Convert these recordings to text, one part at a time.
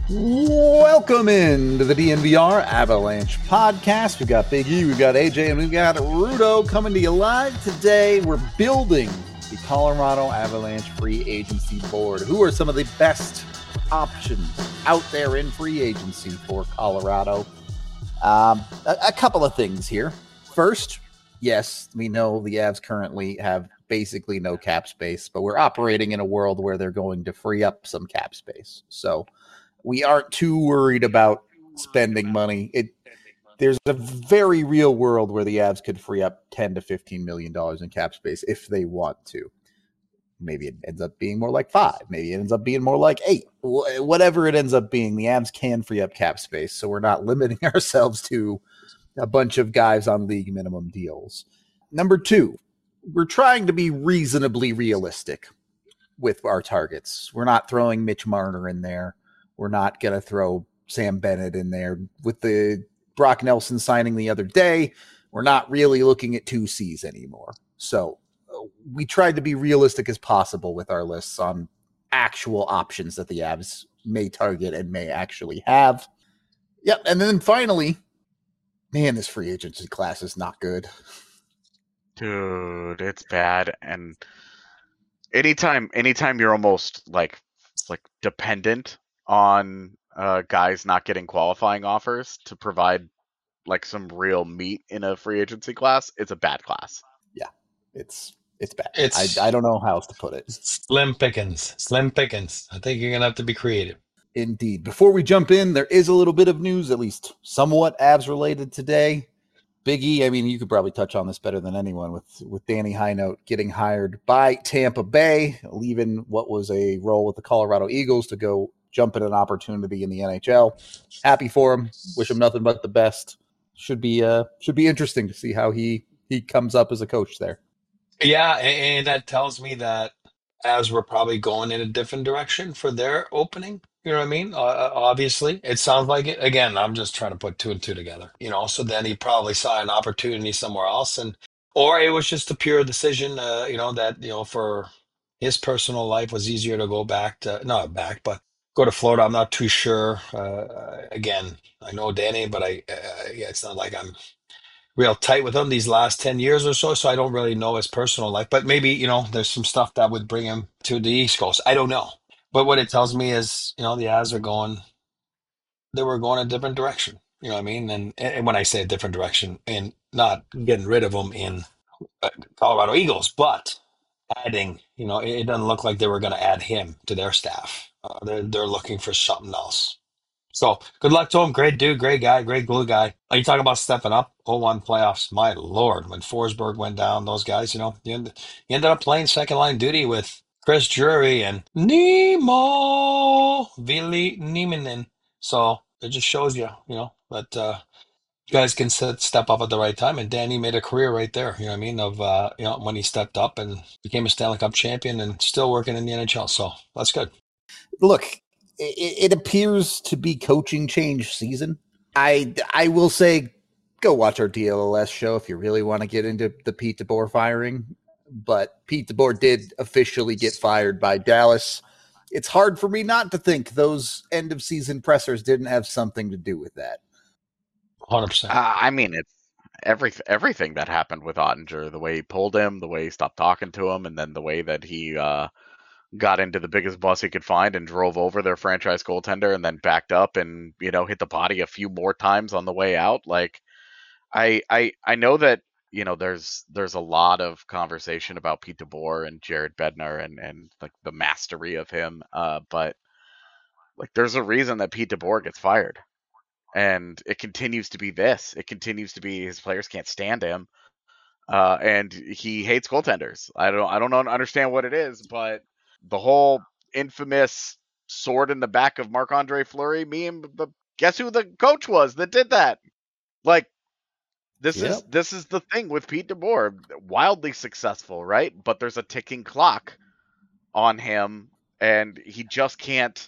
Welcome into the DNVR Avalanche podcast. We've got Big E, we've got AJ, and we've got Rudo coming to you live today. We're building the Colorado Avalanche free agency board. Who are some of the best options out there in free agency for Colorado? A couple of things here. First, yes, we know the Avs currently have basically no cap space, but we're operating in a world where they're going to free up some cap space. So we aren't too worried about spending money. There's a very real world where the Avs could free up $10 to $15 million in cap space if they want to. Maybe it ends up being more like 5. Maybe it ends up being more like 8. Whatever it ends up being, the Avs can free up cap space, so we're not limiting ourselves to a bunch of guys on league minimum deals. Number 2, we're trying to be reasonably realistic with our targets. We're not throwing Mitch Marner in there. We're not going to throw Sam Bennett in there. With the Brock Nelson signing the other day, we're not really looking at 2 Cs anymore. So we tried to be realistic as possible with our lists on actual options that the Avs may target and may actually have. Yep. And then finally, man, this free agency class is not good. Dude, it's bad. And anytime you're almost like dependent on guys not getting qualifying offers to provide like some real meat in a free agency class, it's a bad class. Yeah, it's bad. I don't know how else to put it. Slim pickings. I think you're going to have to be creative. Indeed. Before we jump in, there is a little bit of news, at least somewhat Avs related today. Big E, I mean, you could probably touch on this better than anyone with Danny Highnote getting hired by Tampa Bay, leaving what was a role with the Colorado Eagles to go jump at an opportunity in the NHL. Happy for him. Wish him nothing but the best. Should be interesting to see how he comes up as a coach there. Yeah, and that tells me that as we're probably going in a different direction for their opening, you know what I mean? Obviously, it sounds like it. Again, I'm just trying to put 2 and 2 together, So then he probably saw an opportunity somewhere else, or it was just a pure decision, that for his personal life was easier to go but go to Florida. I'm not too sure. Again, I know Danny, but it's not like I'm real tight with him these last 10 years or so I don't really know his personal life, but maybe there's some stuff that would bring him to the East Coast. I don't know, but what it tells me is the Avs were going a different direction, you know what I mean? And when I say a different direction, and not getting rid of him in Colorado Eagles, but adding, it doesn't look like they were going to add him to their staff. They're looking for something else. So good luck to him. Great dude, great guy, great glue guy. Are you talking about stepping up? 0-1 playoffs. My Lord, when Forsberg went down, those guys, you ended up playing second line duty with Chris Drury and Nemo Ville Nieminen. So it just shows you, that guys can step up at the right time. And Danny made a career right there, you know what I mean? Of, when he stepped up and became a Stanley Cup champion and still working in the NHL. So that's good. Look, it appears to be coaching change season. I will say, go watch our DLS show if you really want to get into the Pete DeBoer firing. But Pete DeBoer did officially get fired by Dallas. It's hard for me not to think those end of season pressers didn't have something to do with that. 100%. I mean, it's everything that happened with Ottinger, the way he pulled him, the way he stopped talking to him, and then the way that he got into the biggest bus he could find and drove over their franchise goaltender and then backed up and, hit the body a few more times on the way out. Like, I know that, there's a lot of conversation about Pete DeBoer and Jared Bednar and like the mastery of him. But like, there's a reason that Pete DeBoer gets fired. And it continues to be this. It continues to be his players can't stand him. And he hates goaltenders. I don't understand what it is, but the whole infamous sword in the back of Marc-Andre Fleury meme, guess who the coach was that did that? Like, this is the thing with Pete DeBoer. Wildly successful, right? But there's a ticking clock on him, and he just can't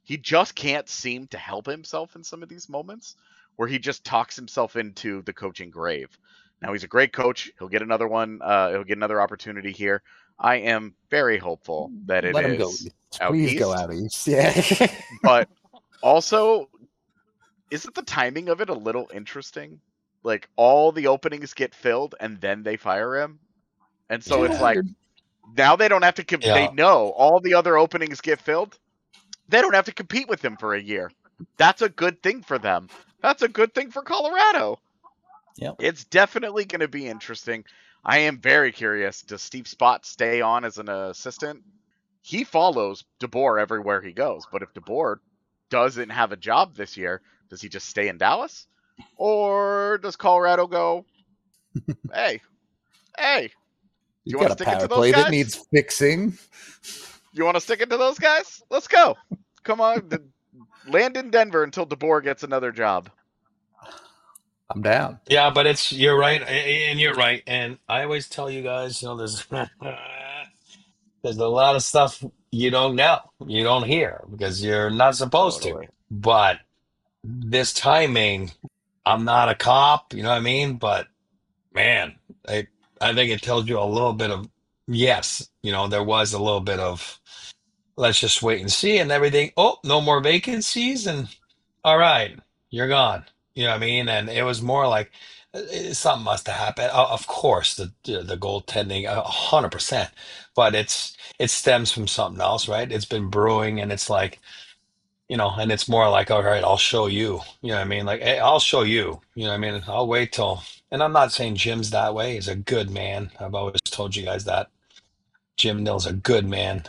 seem to help himself in some of these moments where he just talks himself into the coaching grave. Now, he's a great coach. He'll get another one. He'll get another opportunity here. I am very hopeful that it Let him is go. out Please east. go out east. Yeah. But Also, isn't the timing of it a little interesting? Like all the openings get filled and then they fire him, and so it's Yeah. like now they don't have to. They Yeah. know all the other openings get filled. They don't have to compete with him for a year. That's a good thing for them. That's a good thing for Colorado. Yep. It's definitely going to be interesting. I am very curious. Does Steve Spott stay on as an assistant? He follows DeBoer everywhere he goes, but if DeBoer doesn't have a job this year, does he just stay in Dallas? Or does Colorado go, hey, do you want to stick it to those play guys? that needs fixing. You want to stick it to those guys? Let's go. Come on. Land in Denver until DeBoer gets another job. I'm down. Yeah, but you're right, and you're right. And I always tell you guys, there's there's a lot of stuff you don't know, you don't hear because you're not supposed to. Totally. But this timing, I'm not a cop, you know what I mean? But man, I think it tells you a little bit of yes, there was a little bit of let's just wait and see and everything. Oh, no more vacancies and all right, you're gone. You know what I mean? And it was more like something must have happened. Of course, the goaltending, 100%, but it stems from something else, right? It's been brewing, and it's like, and it's more like, all right, I'll show you. You know what I mean? Like, hey, I'll show you. You know what I mean? I'll wait till. And I'm not saying Jim's that way. He's a good man. I've always told you guys that. Jim Nill's a good man.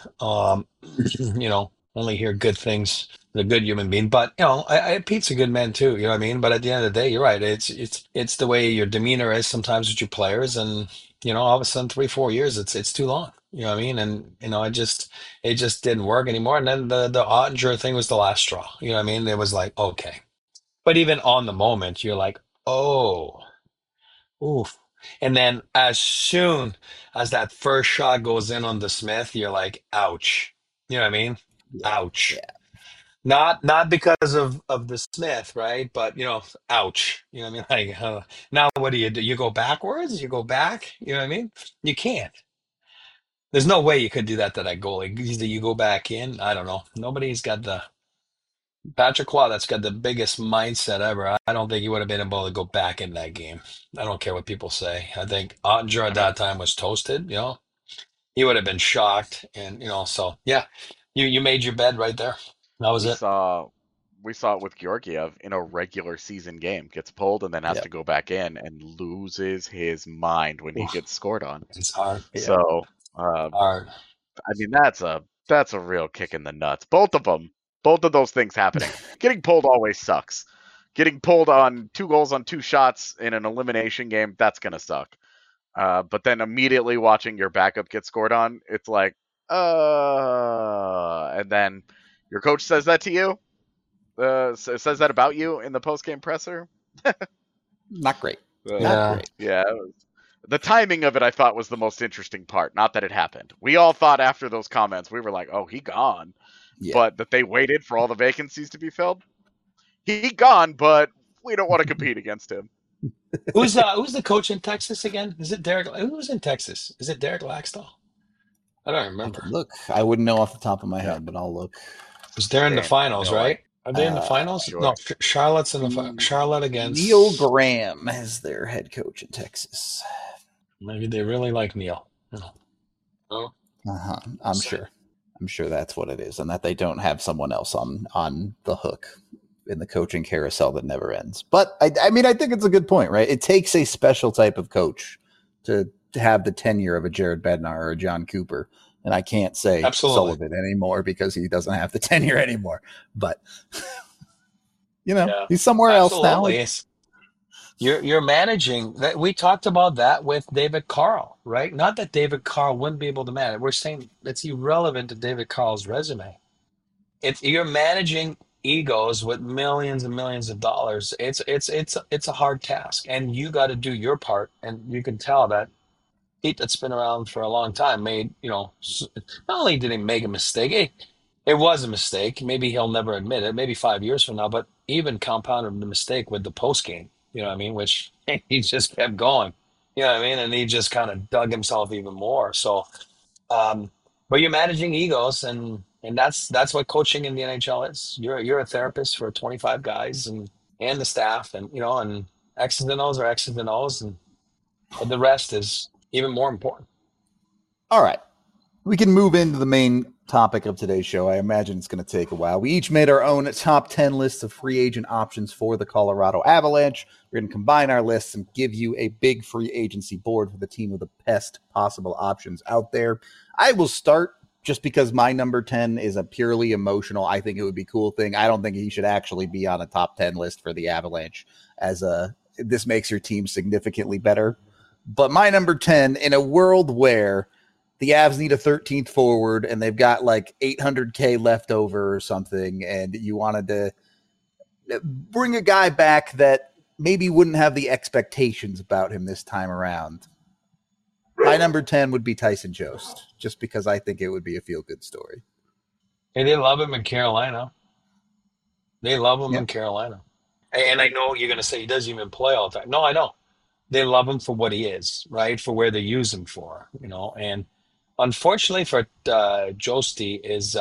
Only hear good things. The good human being, but Pete's a good man too. You know what I mean? But at the end of the day, you're right. It's the way your demeanor is sometimes with your players, and all of a sudden 3-4 years, it's too long. You know what I mean? And it just didn't work anymore. And then the Ottinger thing was the last straw. You know what I mean? It was like okay, but even on the moment, you're like, oh. Oof. And then as soon as that first shot goes in on the Smith, you're like, ouch. You know what I mean? Yeah. Ouch. Yeah. Not because of the Smith, right? But ouch. You know what I mean? Like now what do? You go backwards? You go back? You know what I mean? You can't. There's no way you could do that to that goalie. Either you go back in. I don't know. Nobody's got the Patrick Waugh, that's got the biggest mindset ever. I don't think he would have been able to go back in that game. I don't care what people say. I think Ottinger at that time was toasted. He would have been shocked, and so yeah, you made your bed right there. That was We it. saw we saw it with Georgiev in a regular season game. Gets pulled and then has Yep. to go back in and loses his mind when he Oof. gets scored on. It's hard. Yeah. So, Hard. I mean, that's a real kick in the nuts. Both of them, both of those things happening. Getting pulled always sucks. Getting pulled on 2 goals on 2 shots in an elimination game, that's gonna suck. But then immediately watching your backup get scored on, it's like, and then your coach says that to you, says that about you in the post game presser. Not great. Yeah. Not great. Yeah, the timing of it I thought was the most interesting part. Not that it happened. We all thought after those comments, we were like, oh, he gone. Yeah. But that they waited for all the vacancies to be filled. He gone, but we don't want to compete against him. Who's the coach in Texas again? Is it Derek? Who's in Texas? Is it Derek Laxdal? I don't I remember. can look. I wouldn't know off the top of my head, but I'll look. Because they're in the Damn, finals, no, right? Are they in the finals? sure. No, Charlotte's in the Charlotte against Neil Graham is their head coach in Texas. Maybe they really like Neil. Oh, Uh-huh. I'm sure. I'm sure that's what it is, and that they don't have someone else on the hook in the coaching carousel that never ends. But I mean, I think it's a good point, right? It takes a special type of coach to have the tenure of a Jared Bednar or a John Cooper. And I can't say absolutely. Sullivan anymore because he doesn't have the tenure anymore. But Yeah. he's somewhere else now. Absolutely. You're managing that. We talked about that with David Carl, right? Not that David Carl wouldn't be able to manage. We're saying it's irrelevant to David Carl's resume. You're managing egos with millions and millions of dollars. It's a hard task, and you got to do your part. And you can tell that Pete, that's been around for a long time, made not only did he make a mistake, it was a mistake. Maybe he'll never admit it. Maybe 5 years from now, but even compounded the mistake with the post game. You know what I mean? Which he just kept going. You know what I mean? And he just kind of dug himself even more. So, but you're managing egos, and And that's what coaching in the NHL is. You're a therapist for 25 guys and the staff, and and X's and O's are X's and O's, but the rest is even more important. All right. We can move into the main topic of today's show. I imagine it's going to take a while. We each made our own top 10 lists of free agent options for the Colorado Avalanche. We're going to combine our lists and give you a big free agency board for the team with the best possible options out there. I will start just because my number 10 is a purely emotional, I think it would be cool thing. I don't think he should actually be on a top 10 list for the Avalanche this makes your team significantly better. But my number 10, in a world where the Avs need a 13th forward and they've got like $800K left over or something, and you wanted to bring a guy back that maybe wouldn't have the expectations about him this time around. My number 10 would be Tyson Jost, just because I think it would be a feel-good story. And they love him in Carolina. They love him Yeah. in Carolina. And I know you're going to say he doesn't even play all the time. No, I know. They love him for what he is, right? For where they use him for, And unfortunately for Josty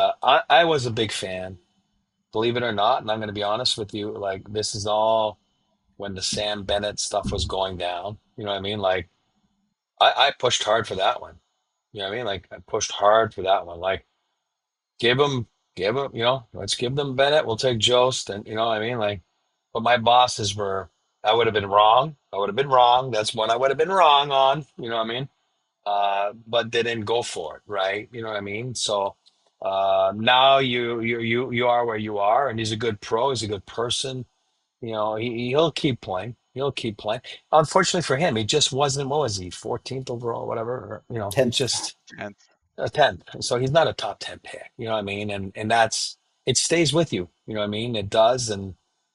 I was a big fan, believe it or not. And I'm going to be honest with you. Like, this is all when the Sam Bennett stuff was going down. You know what I mean? Like, I pushed hard for that one. You know what I mean? Like, I pushed hard for that one. Like, give him, let's give them Bennett. We'll take Jost. And you know what I mean? Like, but my bosses I would have been wrong. I would have been wrong. That's one I would have been wrong on. You know what I mean? But they didn't go for it, right? You know what I mean? So now you are where you are, and he's a good pro. He's a good person. He'll keep playing. He'll keep playing. Unfortunately for him, he just wasn't. What was he? 14th overall, whatever. Or, he 10th. just 10th. a 10th. So he's not a top 10 pick. You know what I mean? And it stays with you. You know what I mean? It does, and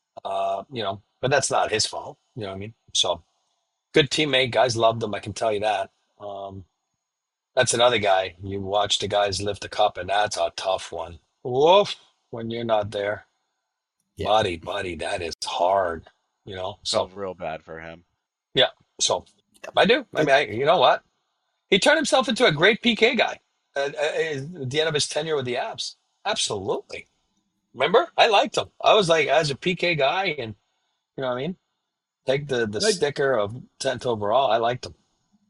but that's not his fault. You know what I mean? So good teammate. Guys loved him. I can tell you that. That's another guy. You watch the guys lift the cup, and that's a tough one. Woof, when you're not there. Yeah. Buddy, that is hard, So Felt real bad for him. yeah, so I do. I mean, you know what? He turned himself into a great PK guy at the end of his tenure with the Avs. Absolutely. Remember? I liked him. I was like, as a PK guy, and you know what I mean? Take the sticker of 10th overall. I liked him.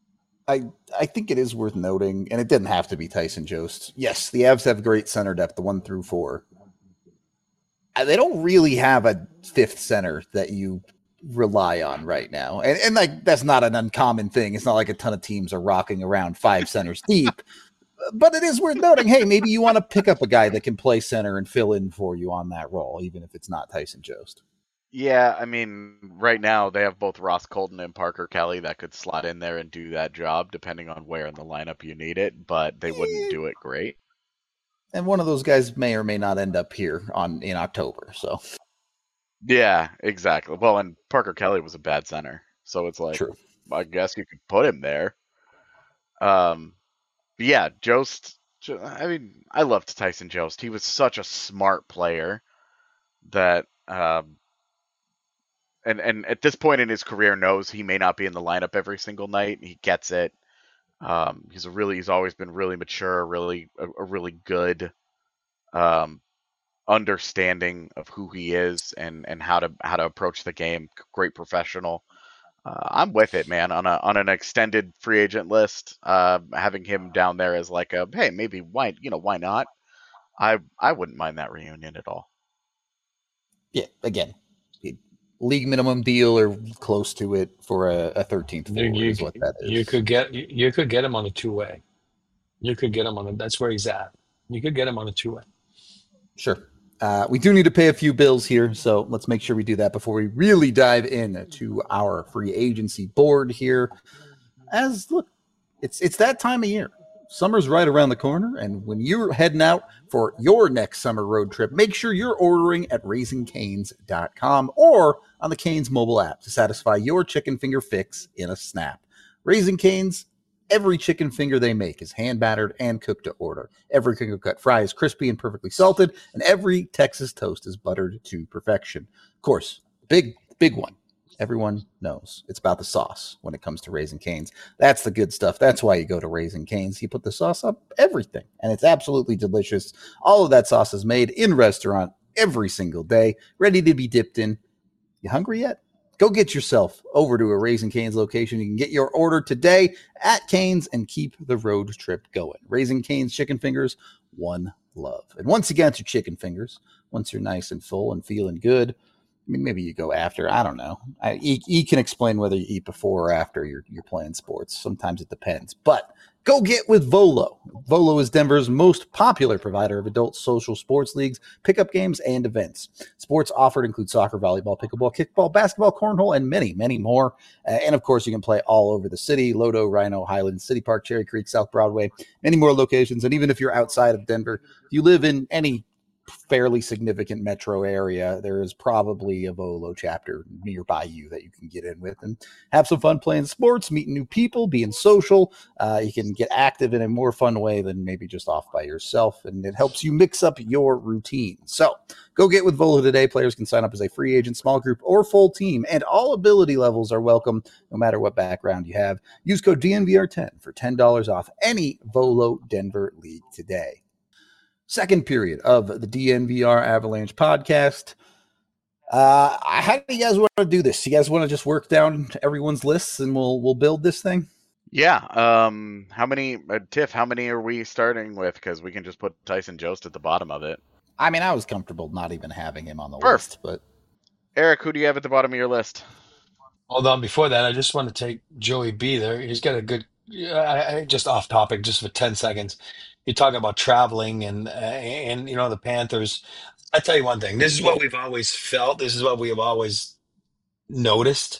I think it is worth noting, and it didn't have to be Tyson Jost. Yes, the Avs have great center depth, the 1 through 4. They don't really have a fifth center that you rely on right now. And like, that's not an uncommon thing. It's not like a ton of teams are rocking around 5 centers deep, but it is worth noting, hey, maybe you want to pick up a guy that can play center and fill in for you on that role, even if it's not Tyson Jost. Yeah, I mean, right now they have both Ross Colton and Parker Kelly that could slot in there and do that job, depending on where in the lineup you need it, but they wouldn't do it great. And one of those guys may or may not end up here in October. So, yeah, exactly. Well, and Parker Kelly was a bad center, so it's like, true. I guess you could put him there. But yeah, Jost. I mean, I loved Tyson Jost. He was such a smart player that, and at this point in his career, knows he may not be in the lineup every single night. He gets it. He's always been really mature, a really good understanding of who he is and how to approach the game. Great professional. I'm with it, man. On an extended free agent list, having him down there as like a, hey, maybe why not? I wouldn't mind that reunion at all. Yeah, again, league minimum deal or close to it for a 13th forward is what that is. You could get him on a 2-way. You could get him that's where he's at. You could get him on a 2-way. Sure. We do need to pay a few bills here, so let's make sure we do that before we really dive into our free agency board here. Look, it's that time of year. Summer's right around the corner, and when you're heading out for your next summer road trip, make sure you're ordering at RaisingCanes.com or on the Canes mobile app to satisfy your chicken finger fix in a snap. Raising Canes, every chicken finger they make is hand battered and cooked to order. Every crinkle cut fry is crispy and perfectly salted, and every Texas toast is buttered to perfection. Of course, big one. Everyone knows it's about the sauce when it comes to Raising Cane's. That's the good stuff. That's why you go to Raising Cane's. You put the sauce up everything, and it's absolutely delicious. All of that sauce is made in restaurant every single day, ready to be dipped in. You hungry yet? Go get yourself over to a Raising Cane's location. You can get your order today at Cane's and keep the road trip going. Raising Cane's Chicken Fingers, one love. And once again, to Chicken Fingers, once you're nice and full and feeling good, I mean, maybe you go after. I don't know. E can explain whether you eat before or after you're playing sports. Sometimes it depends. But go get with Volo. Volo is Denver's most popular provider of adult social sports leagues, pickup games, and events. Sports offered include soccer, volleyball, pickleball, kickball, basketball, cornhole, and many, many more. And of course, you can play all over the city: Lodo, Rhino, Highlands, City Park, Cherry Creek, South Broadway, many more locations. And even if you're outside of Denver, if you live in any fairly significant metro area, there is probably a Volo chapter nearby you that you can get in with and have some fun playing sports, meeting new people, being social. You can get active in a more fun way than maybe just off by yourself, and it helps you mix up your routine. So go get with Volo today. Players can sign up as a free agent, small group, or full team, and all ability levels are welcome no matter what background you have. Use code DNVR10 for $10 off any Volo Denver league today. Second period of the DNVR Avalanche podcast. How do you guys want to do this? You guys want to just work down everyone's lists and we'll build this thing? Yeah. How many, Tiff, how many are we starting with? Because we can just put Tyson Jost at the bottom of it. I mean, I was comfortable not even having him on the list. But Eric, who do you have at the bottom of your list? Hold on. Before that, I just want to take Joey B there. He's got a good, just off topic, just for 10 seconds. You're talking about traveling and the Panthers. I tell you one thing. This is what we've always felt. This is what we have always noticed.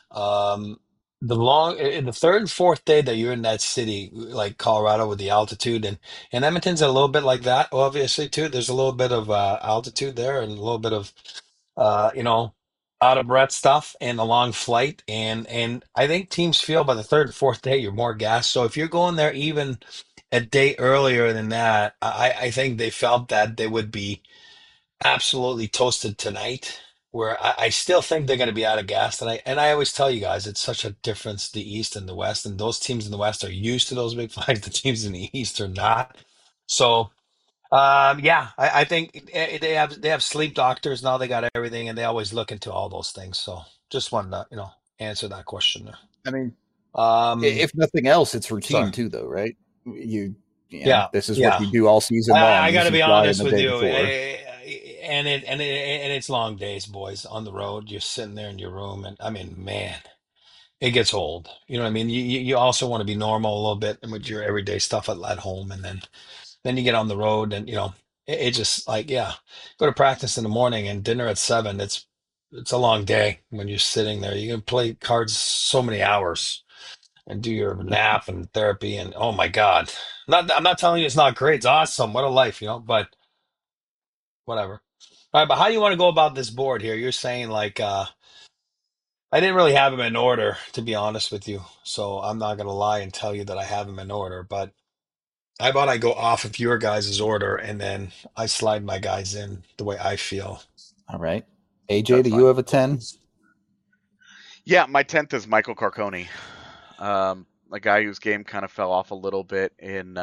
The third and fourth day that you're in that city, like Colorado, with the altitude, and Edmonton's a little bit like that, obviously too. There's a little bit of altitude there and a little bit of out of breath stuff and a long flight, and I think teams feel by the third and fourth day you're more gassed. So if you're going there even a day earlier than that, I think they felt that they would be absolutely toasted tonight. Where I still think they're going to be out of gas tonight. And I always tell you guys, it's such a difference, the East and the West. And those teams in the West are used to those big flights. The teams in the East are not. So, I think they have sleep doctors now. They got everything, and they always look into all those things. So, just wanted to answer that question there. I mean, if nothing else, it's routine too, though, right? This is what you do all season long. I got to be honest with you. And it's long days, boys, on the road. You're sitting there in your room, and I mean, man, it gets old. You know what I mean? You also want to be normal a little bit with your everyday stuff at home, and then you get on the road, and it just like go to practice in the morning and dinner at 7. It's a long day when you're sitting there. You can play cards so many hours and do your nap and therapy, and oh my God, I'm not telling you it's not great. It's awesome. What a life, but whatever. All right, but how do you want to go about this board here? You're saying like I didn't really have them in order, to be honest with you. So I'm not going to lie and tell you that I have them in order. But how about I go off of your guys' order and then I slide my guys in the way I feel. All right. AJ, do you have a 10? Yeah, my 10th is Michael Carcone. A guy whose game kind of fell off a little bit in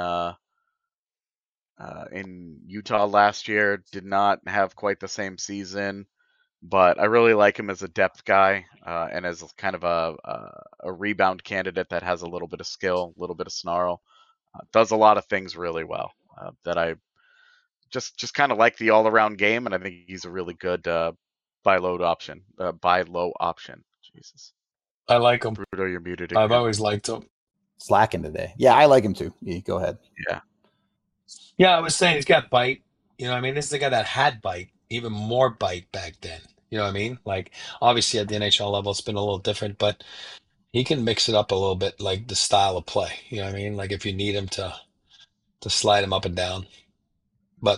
Utah last year. Did not have quite the same season, but I really like him as a depth guy and as kind of a rebound candidate that has a little bit of skill, a little bit of snarl. Does a lot of things really well that I just kind of like the all-around game, and I think he's a really good buy low option. Jesus. I like him. Bruto, you're muted again. I've always liked him. Slacking today. Yeah, I like him too. Yeah, go ahead. Yeah, I was saying he's got bite. You know what I mean? This is a guy that had bite, even more bite back then. You know what I mean? Like, obviously at the NHL level, it's been a little different, but he can mix it up a little bit, like the style of play. You know what I mean? Like if you need him to slide him up and down. But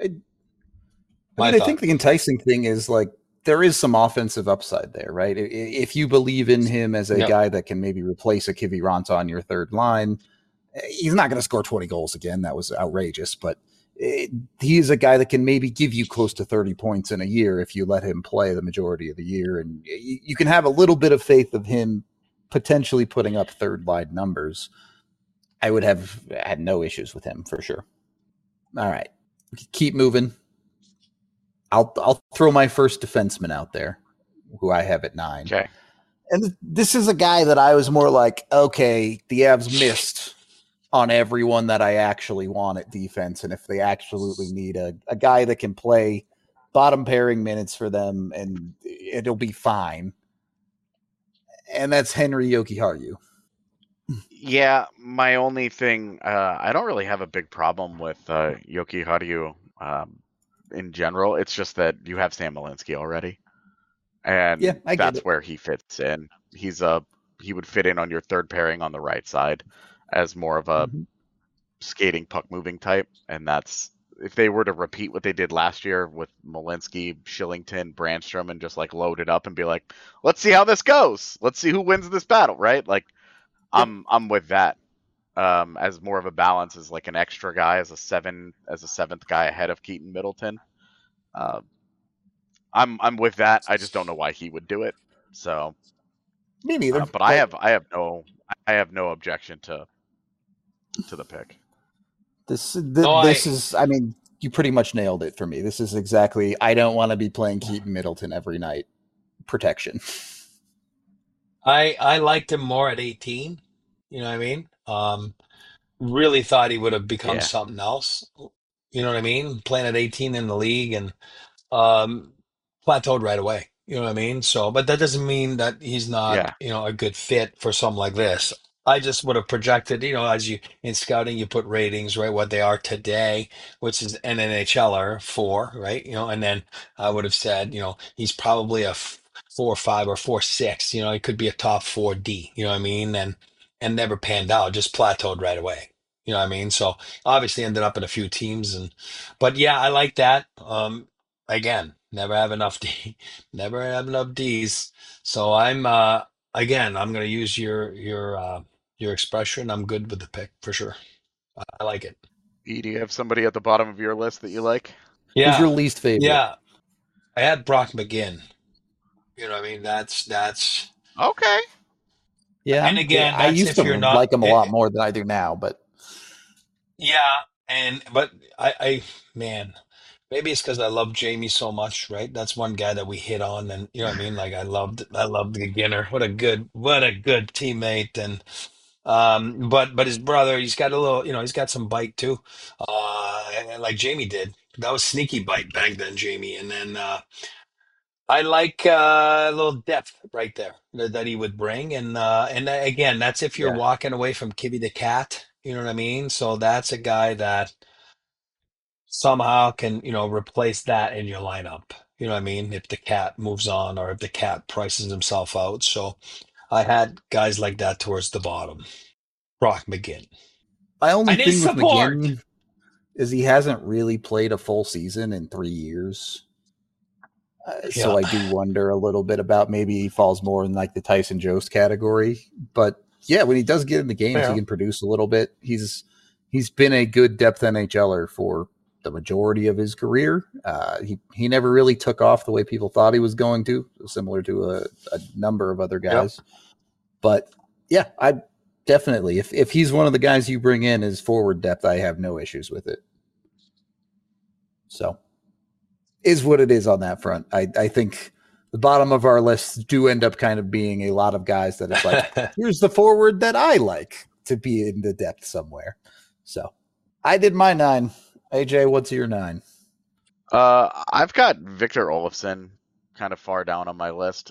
I think the enticing thing is like there is some offensive upside there, right? If you believe in him as a guy that can maybe replace a Kiviranta on your third line, he's not going to score 20 goals again. That was outrageous. But He's a guy that can maybe give you close to 30 points in a year if you let him play the majority of the year. And you can have a little bit of faith of him potentially putting up third line numbers. I would have had no issues with him for sure. All right. Keep moving. I'll throw my first defenseman out there, who I have at 9. Okay. And this is a guy that I was more like, okay, the Avs missed on everyone that I actually want at defense. And if they absolutely need a guy that can play bottom pairing minutes for them, and it'll be fine. And that's Henri Jokiharju. Yeah, my only thing, I don't really have a big problem with Jokiharju in general. It's just that you have Sam Malinsky already. And Yeah, I get that's it. where he fits in. He would fit in on your third pairing on the right side as more of a skating puck moving type. And that's, if they were to repeat what they did last year with Malinsky, Shillington, Brandstrom, and just like load it up and be like, let's see how this goes. Let's see who wins this battle, right? Like, I'm with that. As more of a balance, as like an extra guy, as a seventh guy ahead of Keaton Middleton. I'm with that. I just don't know why he would do it. So me neither. But I have no objection to the pick. This is, I mean, you pretty much nailed it for me. This is exactly, I don't want to be playing Keaton Middleton every night. Protection. I liked him more at 18. You know what I mean? Really thought he would have become something else. You know what I mean? Playing at 18 in the league and plateaued right away. You know what I mean? So, but that doesn't mean that he's not, a good fit for something like this. I just would have projected, as you in scouting, you put ratings, right? What they are today, which is an NHLer 4, right? And then I would have said, he's probably a 4-5 or 4-6. He could be a top 4D. You know what I mean? And never panned out, just plateaued right away. You know what I mean? So obviously ended up in a few teams, but yeah, I like that. Again, never have enough D's. So I'm going to use your expression. I'm good with the pick for sure. I like it. E, do you have somebody at the bottom of your list that you like? Yeah. Who's your least favorite? Yeah. I had Brock McGinn. You know what I mean? That's okay. Yeah. And again, I used to like him a lot more than I do now, but yeah, but I man, maybe it's because I love Jamie so much, right? That's one guy that we hit on, and you know what I mean. Like I loved the Ginner. What a good teammate, and but his brother, he's got a little, he's got some bite too, like Jamie did. That was sneaky bite back then, Jamie, and then I like a little depth right there that he would bring, and again, that's if you're walking away from Kibby the Cat. You know what I mean? So that's a guy that somehow can, replace that in your lineup. You know what I mean? If the Cat moves on or if the Cat prices himself out. So I had guys like that towards the bottom. Brock McGinn. My only thing with McGinn is he hasn't really played a full season in 3 years. So I do wonder a little bit about maybe he falls more in like the Tyson Jost category. But yeah, when he does get in the games, he can produce a little bit. He's been a good depth NHLer for the majority of his career. He never really took off the way people thought he was going to, similar to a number of other guys. But yeah, I definitely, if he's one of the guys you bring in as forward depth, I have no issues with it. So is what it is on that front. I think the bottom of our list do end up kind of being a lot of guys that it's like, here's the forward that I like to be in the depth somewhere. So I did my 9. AJ, what's your 9? I've got Victor Olofsson kind of far down on my list.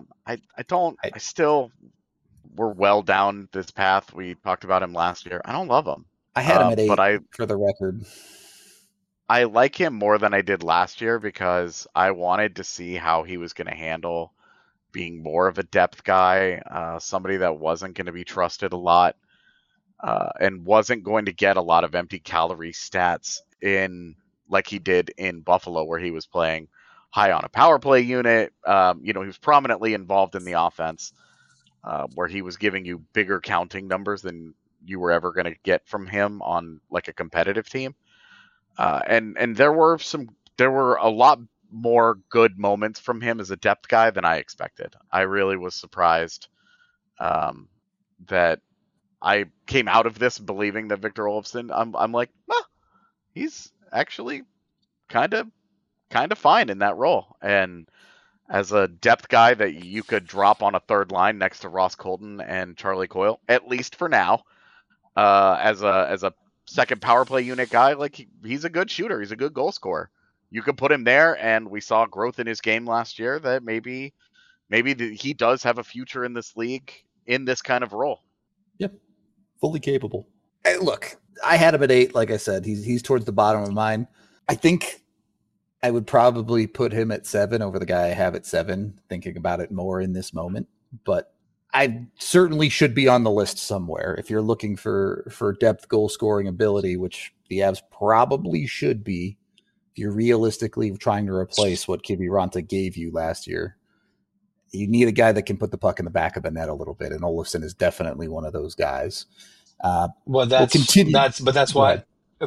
We're well down this path. We talked about him last year. I don't love him. I had him at 8 for the record. I like him more than I did last year because I wanted to see how he was going to handle being more of a depth guy, somebody that wasn't going to be trusted a lot, and wasn't going to get a lot of empty calorie stats in like he did in Buffalo, where he was playing high on a power play unit. He was prominently involved in the offense, where he was giving you bigger counting numbers than you were ever going to get from him on like a competitive team. And there were a lot more good moments from him as a depth guy than I expected. I really was surprised that I came out of this believing that Victor Olofsson. I'm like, he's actually kind of fine in that role. And as a depth guy that you could drop on a third line next to Ross Colton and Charlie Coyle, at least for now, as a second power play unit guy, like he's a good shooter. He's a good goal scorer. You could put him there, and we saw growth in his game last year that maybe he does have a future in this league in this kind of role. Yep, fully capable. Hey, look, I had him at 8. Like I said, he's towards the bottom of mine. I think I would probably put him at 7 over the guy I have at 7, thinking about it more in this moment. But I certainly should be on the list somewhere if you're looking for depth goal scoring ability, which the Avs probably should be if you're realistically trying to replace what Kiviranta gave you last year. You need a guy that can put the puck in the back of the net a little bit, and Olofsson is definitely one of those guys. That's why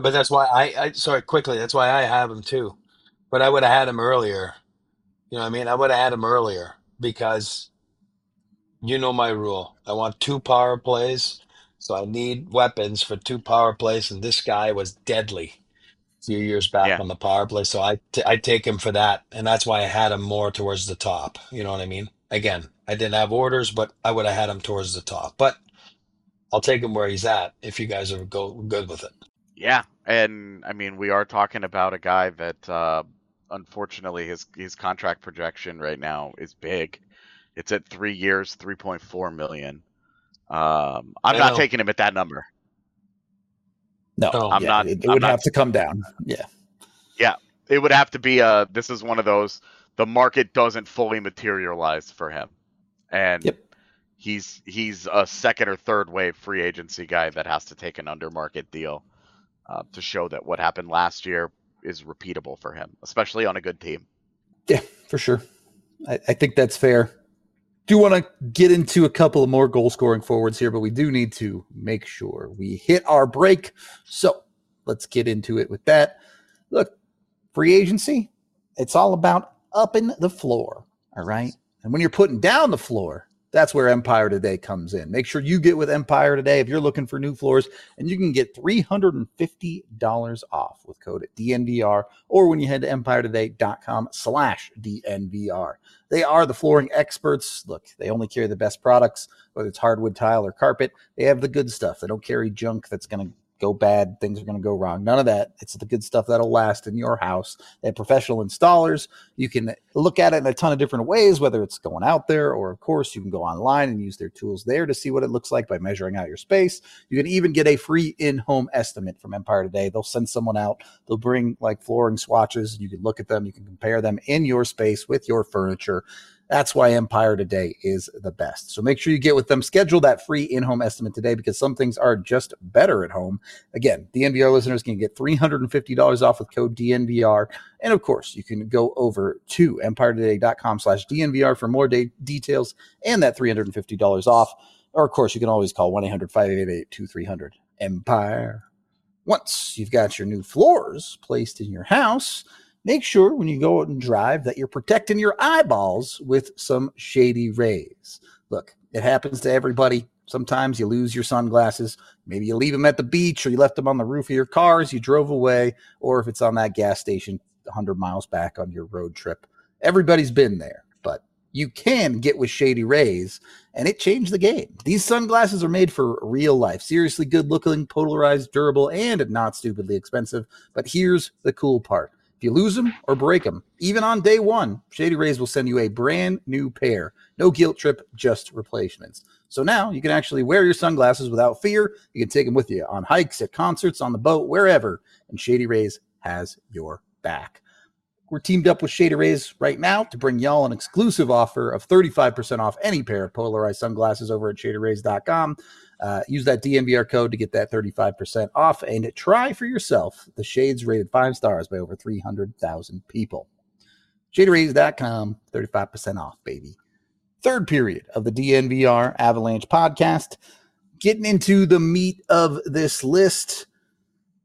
I sorry, quickly, that's why I have him too. But I would have had him earlier. You know what I mean? I would have had him earlier because you know my rule. I want 2 power plays, so I need weapons for 2 power plays, and this guy was deadly a few years back on the power play, so I take him for that, and that's why I had him more towards the top. You know what I mean? Again, I didn't have orders, but I would have had him towards the top. But I'll take him where he's at if you guys are good with it. Yeah, and I mean, we are talking about a guy that unfortunately his contract projection right now is big. It's at 3 years, $3.4 million. I'm not taking him at that number. No, I'm not. It would have to come down. Yeah. Yeah, it would have to be this is one of those, the market doesn't fully materialize for him. And he's a second or third wave free agency guy that has to take an under market deal to show that what happened last year is repeatable for him, especially on a good team. Yeah, for sure. I think that's fair. Do want to get into a couple of more goal scoring forwards here, but we do need to make sure we hit our break. So let's get into it with that. Look, free agency, it's all about upping the floor. All right. And when you're putting down the floor, that's where Empire Today comes in. Make sure you get with Empire Today if you're looking for new floors, and you can get $350 off with code DNVR or when you head to empiretoday.com/DNVR. They are the flooring experts. Look, they only carry the best products, whether it's hardwood, tile, or carpet. They have the good stuff. They don't carry junk that's going to go bad, things are going to go wrong. None of that. It's the good stuff that'll last in your house. They have professional installers. You can look at it in a ton of different ways, whether it's going out there or, of course, you can go online and use their tools there to see what it looks like by measuring out your space. You can even get a free in-home estimate from Empire Today. They'll send someone out. They'll bring like flooring swatches. You can look at them. You can compare them in your space with your furniture. That's why Empire Today is the best. So make sure you get with them. Schedule that free in-home estimate today because some things are just better at home. Again, DNVR listeners can get $350 off with code DNVR. And of course, you can go over to empiretoday.com/DNVR for more details and that $350 off. Or of course, you can always call 1-800-588-2300 Empire. Once you've got your new floors placed in your house, make sure when you go out and drive that you're protecting your eyeballs with some Shady Rays. Look, it happens to everybody. Sometimes you lose your sunglasses. Maybe you leave them at the beach or you left them on the roof of your car as you drove away, or if it's on that gas station 100 miles back on your road trip. Everybody's been there, but you can get with Shady Rays, and it changed the game. These sunglasses are made for real life. Seriously good-looking, polarized, durable, and not stupidly expensive. But here's the cool part. If you lose them or break them, even on day one, Shady Rays will send you a brand new pair. No guilt trip, just replacements. So now you can actually wear your sunglasses without fear. You can take them with you on hikes, at concerts, on the boat, wherever. And Shady Rays has your back. We're teamed up with Shady Rays right now to bring y'all an exclusive offer of 35% off any pair of polarized sunglasses over at shadyrays.com. Use that DNVR code to get that 35% off and try for yourself the shades rated 5 stars by over 300,000 people. shadyrays.com, 35% off, baby. Third period of the DNVR Avalanche podcast. Getting into the meat of this list.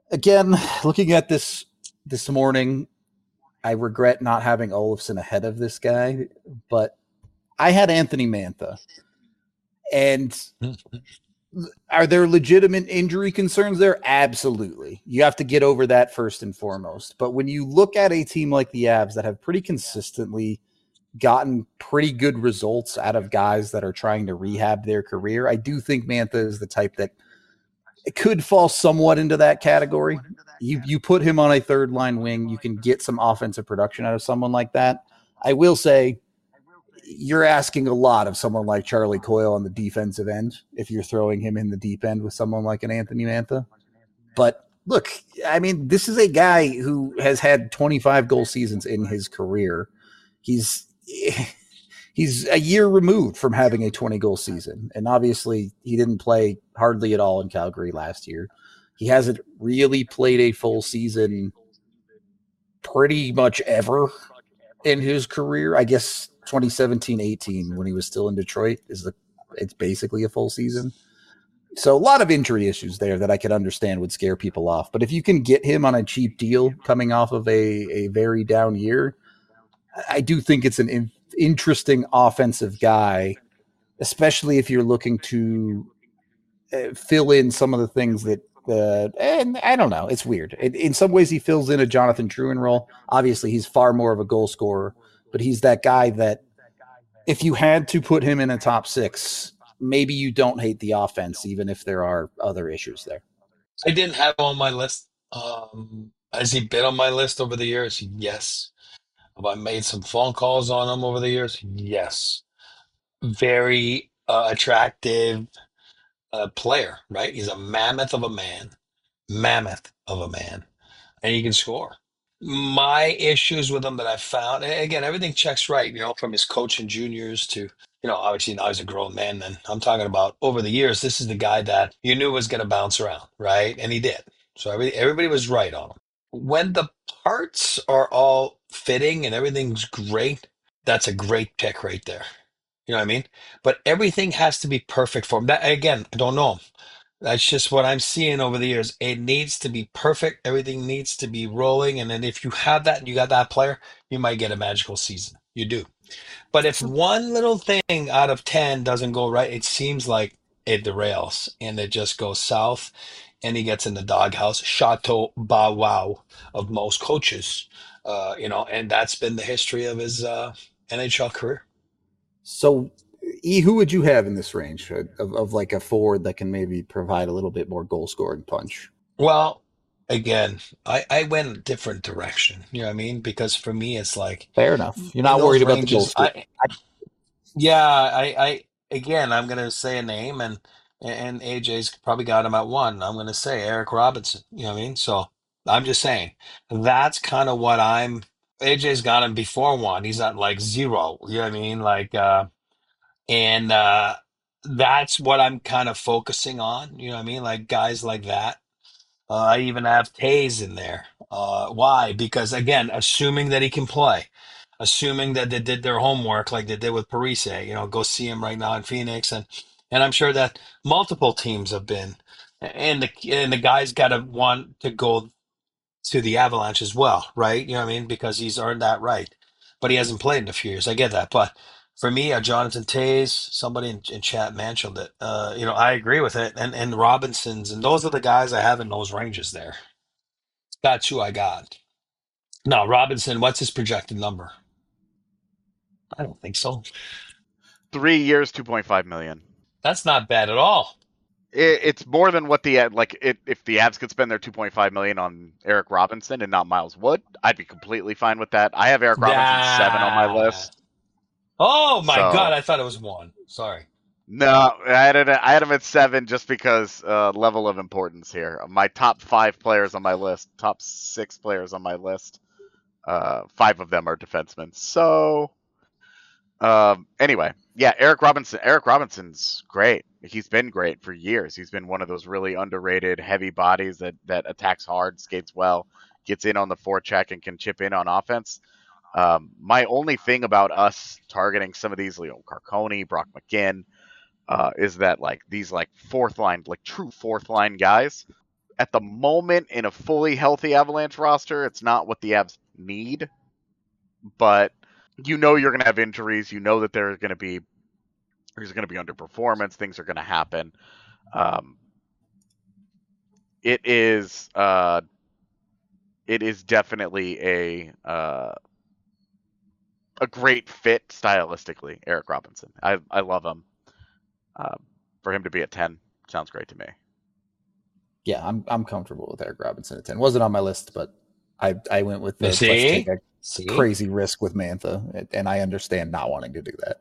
Again, looking at this morning, I regret not having Olofsson ahead of this guy, but I had Anthony Mantha. And are there legitimate injury concerns there? Absolutely. You have to get over that first and foremost. But when you look at a team like the Avs that have pretty consistently gotten pretty good results out of guys that are trying to rehab their career, I do think Mantha is the type that it could fall somewhat into that category. You put him on a third line wing, you can get some offensive production out of someone like that. I will say you're asking a lot of someone like Charlie Coyle on the defensive end if you're throwing him in the deep end with someone like an Anthony Mantha. But look, I mean, this is a guy who has had 25 goal seasons in his career. He's a year removed from having a 20-goal season. And obviously, he didn't play hardly at all in Calgary last year. He hasn't really played a full season pretty much ever in his career. I guess 2017-18, when he was still in Detroit, it's basically a full season. So a lot of injury issues there that I could understand would scare people off. But if you can get him on a cheap deal coming off of a very down year, I do think it's an interesting offensive guy, especially if you're looking to fill in some of the things that, and I don't know, it's weird. In some ways, he fills in a Jonathan Drouin role. Obviously, he's far more of a goal scorer, but he's that guy that if you had to put him in a top six, maybe you don't hate the offense, even if there are other issues there. I didn't have him on my list. Has he been on my list over the years? Yes. Have I made some phone calls on him over the years? Yes. Very attractive player, right? He's a mammoth of a man, and he can score. My issues with him that I found, and again, everything checks right, from his coach in juniors to, obviously now he's a grown man. And I'm talking about over the years, this is the guy that you knew was going to bounce around, right? And he did. So everybody was right on him. When the parts are all fitting and everything's great, that's a great pick right there. You know what I mean? But everything has to be perfect for him. That again, I don't know him. That's just what I'm seeing over the years. It needs to be perfect. Everything needs to be rolling. And then if you have that and you got that player, you might get a magical season. You do. But if one little thing out of 10 doesn't go right, it seems like it derails and it just goes south and he gets in the doghouse, Chateau Bow Wow of most coaches, and that's been the history of his NHL career. So, who would you have in this range of like a forward that can maybe provide a little bit more goal scoring punch? Well, again, I went a different direction. You know what I mean? Because for me, it's like fair enough. You're not worried about the goal score. Again, I'm going to say a name, and AJ's probably got him at one. I'm going to say Eric Robinson. You know what I mean? So I'm just saying that's kind of what AJ's got him before one. He's at like zero. You know what I mean? Like, and that's what I'm kind of focusing on. You know what I mean? Like guys like that. I even have Tays in there. Why? Because again, assuming that he can play, assuming that they did their homework like they did with Parise, go see him right now in Phoenix, and I'm sure that multiple teams have been, and the guy's got to want to go to the Avalanche as well, right? You know what I mean? Because he's earned that right, but he hasn't played in a few years. I get that, but for me, Jonathan Tays, somebody in chat mentioned it. I agree with it, and Robinsons, and those are the guys I have in those ranges there. That's who I got. Now, Robinson, what's his projected number? I don't think so. 3 years, 2.5 million. That's not bad at all. It's more than what if the Avs could spend their 2.5 million on Eric Robinson and not Miles Wood, I'd be completely fine with that. I have Eric Robinson 7 on my list. Oh my God, I thought it was 1. Sorry. No, I had him at 7 just because level of importance here. My top 5 players on my list, top 6 players on my list, 5 of them are defensemen. So, anyway, yeah, Eric Robinson's great. He's been great for years. He's been one of those really underrated heavy bodies that attacks hard, skates well, gets in on the forecheck, and can chip in on offense. My only thing about us targeting some of these, Leo Carconi, Brock McGinn, is that like these like fourth line, like true fourth line guys, at the moment in a fully healthy Avalanche roster, it's not what the Avs need. But you're going to have injuries. You know that there's going to be underperformance. Things are going to happen. It is definitely a great fit stylistically. Eric Robinson, I love him. For him to be at 10 sounds great to me. Yeah, I'm comfortable with Eric Robinson at 10. Wasn't on my list, but I went with the let's take a crazy risk with Mantha, and I understand not wanting to do that.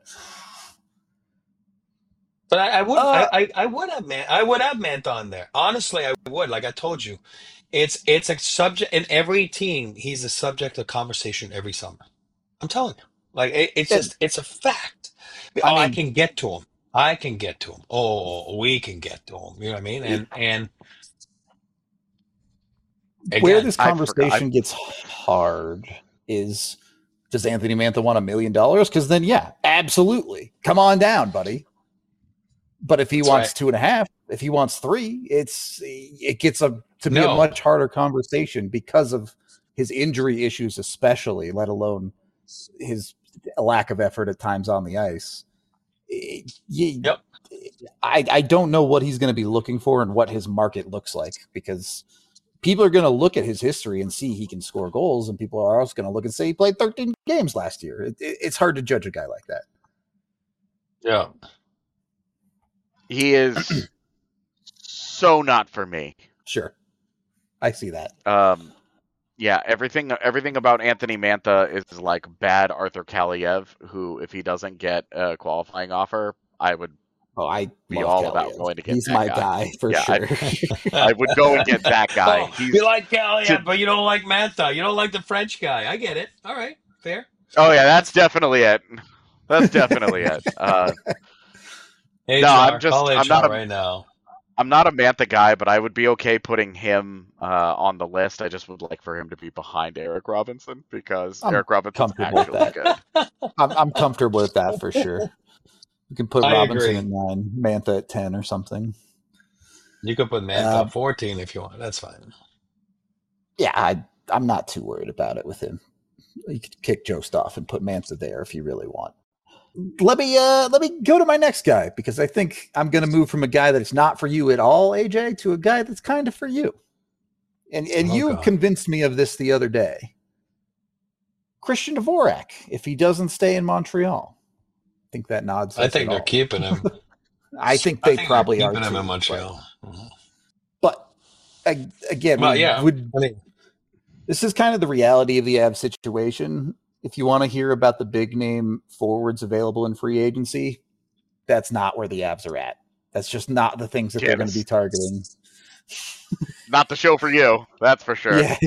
But I would have Mantha on there. Honestly, I would. Like I told you, it's a subject in every team. He's a subject of conversation every summer. I'm telling you, like it's a fact. I can get to him. I can get to him. Oh, we can get to him. You know what I mean? And again, where this conversation gets hard is, does Anthony Mantha want $1 million? Because then, yeah, absolutely, come on down, buddy. But if he wants 2.5, if he wants 3, it gets to be a much harder conversation because of his injury issues, especially, let alone his lack of effort at times on the ice. Yep. I don't know what he's going to be looking for and what his market looks like, because people are going to look at his history and see he can score goals, and people are also going to look and say he played 13 games last year. It's hard to judge a guy like that. Yeah. He is so not for me. Sure. I see that. Yeah, everything about Anthony Mantha is like bad Arthur Kaliev, who, if he doesn't get a qualifying offer, I would be all Kaliev. About going to get. He's that my guy for sure. I would go and get that guy. You like Kaliev, but you don't like Mantha. You don't like the French guy. I get it. All right, fair. Oh yeah, that's definitely it. That's definitely it. Hey, no, I'm not right now. I'm not a Mantha guy, but I would be okay putting him on the list. I just would like for him to be behind Eric Robinson, because Eric Robinson's actually good. I'm comfortable with that for sure. You can put Robinson at 9, Mantha at 10 or something. You could put Mantha at 14 if you want. That's fine. Yeah, I'm not too worried about it with him. You could kick Joe Stoff and put Mantha there if you really want. Let me go to my next guy, because I think I'm going to move from a guy that's not for you at all, AJ, to a guy that's kind of for you. And you convinced me of this the other day. Christian Dvorak, if he doesn't stay in Montreal. I think that nods. I think they're keeping him. I think they probably are keeping him in Montreal. But again, this is kind of the reality of the Avs situation. If you want to hear about the big name forwards available in free agency, that's not where the Avs are at. That's just not the things that they're going to be targeting. Not the show for you, that's for sure. Yeah.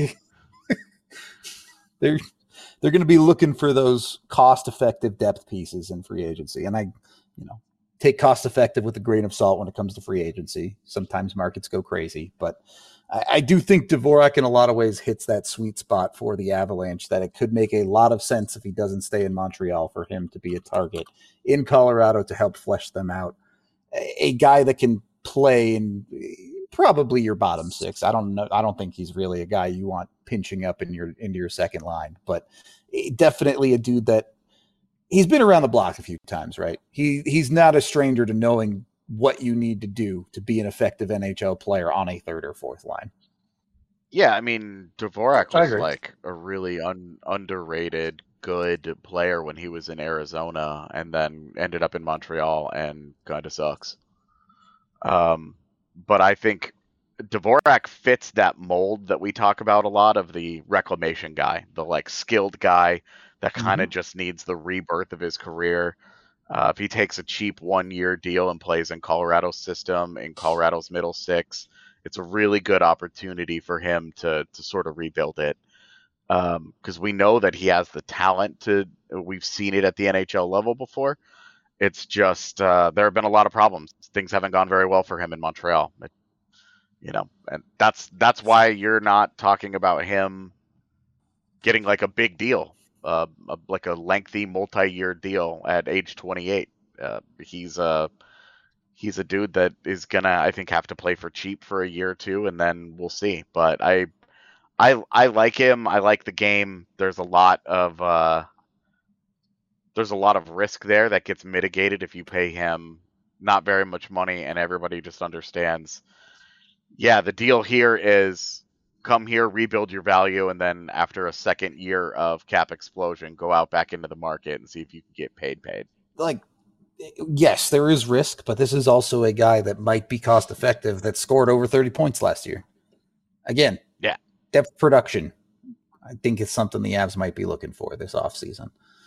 They're going to be looking for those cost-effective depth pieces in free agency. And I take cost-effective with a grain of salt when it comes to free agency. Sometimes markets go crazy, but I do think Dvorak in a lot of ways hits that sweet spot for the Avalanche, that it could make a lot of sense if he doesn't stay in Montreal for him to be a target in Colorado to help flesh them out. A guy that can play in probably your bottom 6. I don't know. I don't think he's really a guy you want pinching up into your second line, but definitely a dude that he's been around the block a few times, right? He's not a stranger to knowing what you need to do to be an effective NHL player on a third or fourth line. Yeah, I mean, Dvorak was like a really underrated, good player when he was in Arizona, and then ended up in Montreal and kind of sucks. But I think Dvorak fits that mold that we talk about a lot of the reclamation guy, the like skilled guy that kind of just needs the rebirth of his career. If he takes a cheap 1-year deal and plays in Colorado's system, in Colorado's middle 6, it's a really good opportunity for him to sort of rebuild it. Because we know that he has the talent we've seen it at the NHL level before. It's just there have been a lot of problems. Things haven't gone very well for him in Montreal. And that's why you're not talking about him getting like a big deal. Like a lengthy multi-year deal at age 28. He's he's a dude that is gonna, I think, have to play for cheap for a year or two, and then we'll see. But I like him. I like the game. There's a lot of risk there that gets mitigated if you pay him not very much money, and everybody just understands. Yeah, the deal here is come here, rebuild your value, and then after a second year of cap explosion, go out back into the market and see if you can get paid. Like, yes, there is risk, but this is also a guy that might be cost effective that scored over 30 points last year. Again, yeah, depth production. I think it's something the Avs might be looking for this offseason.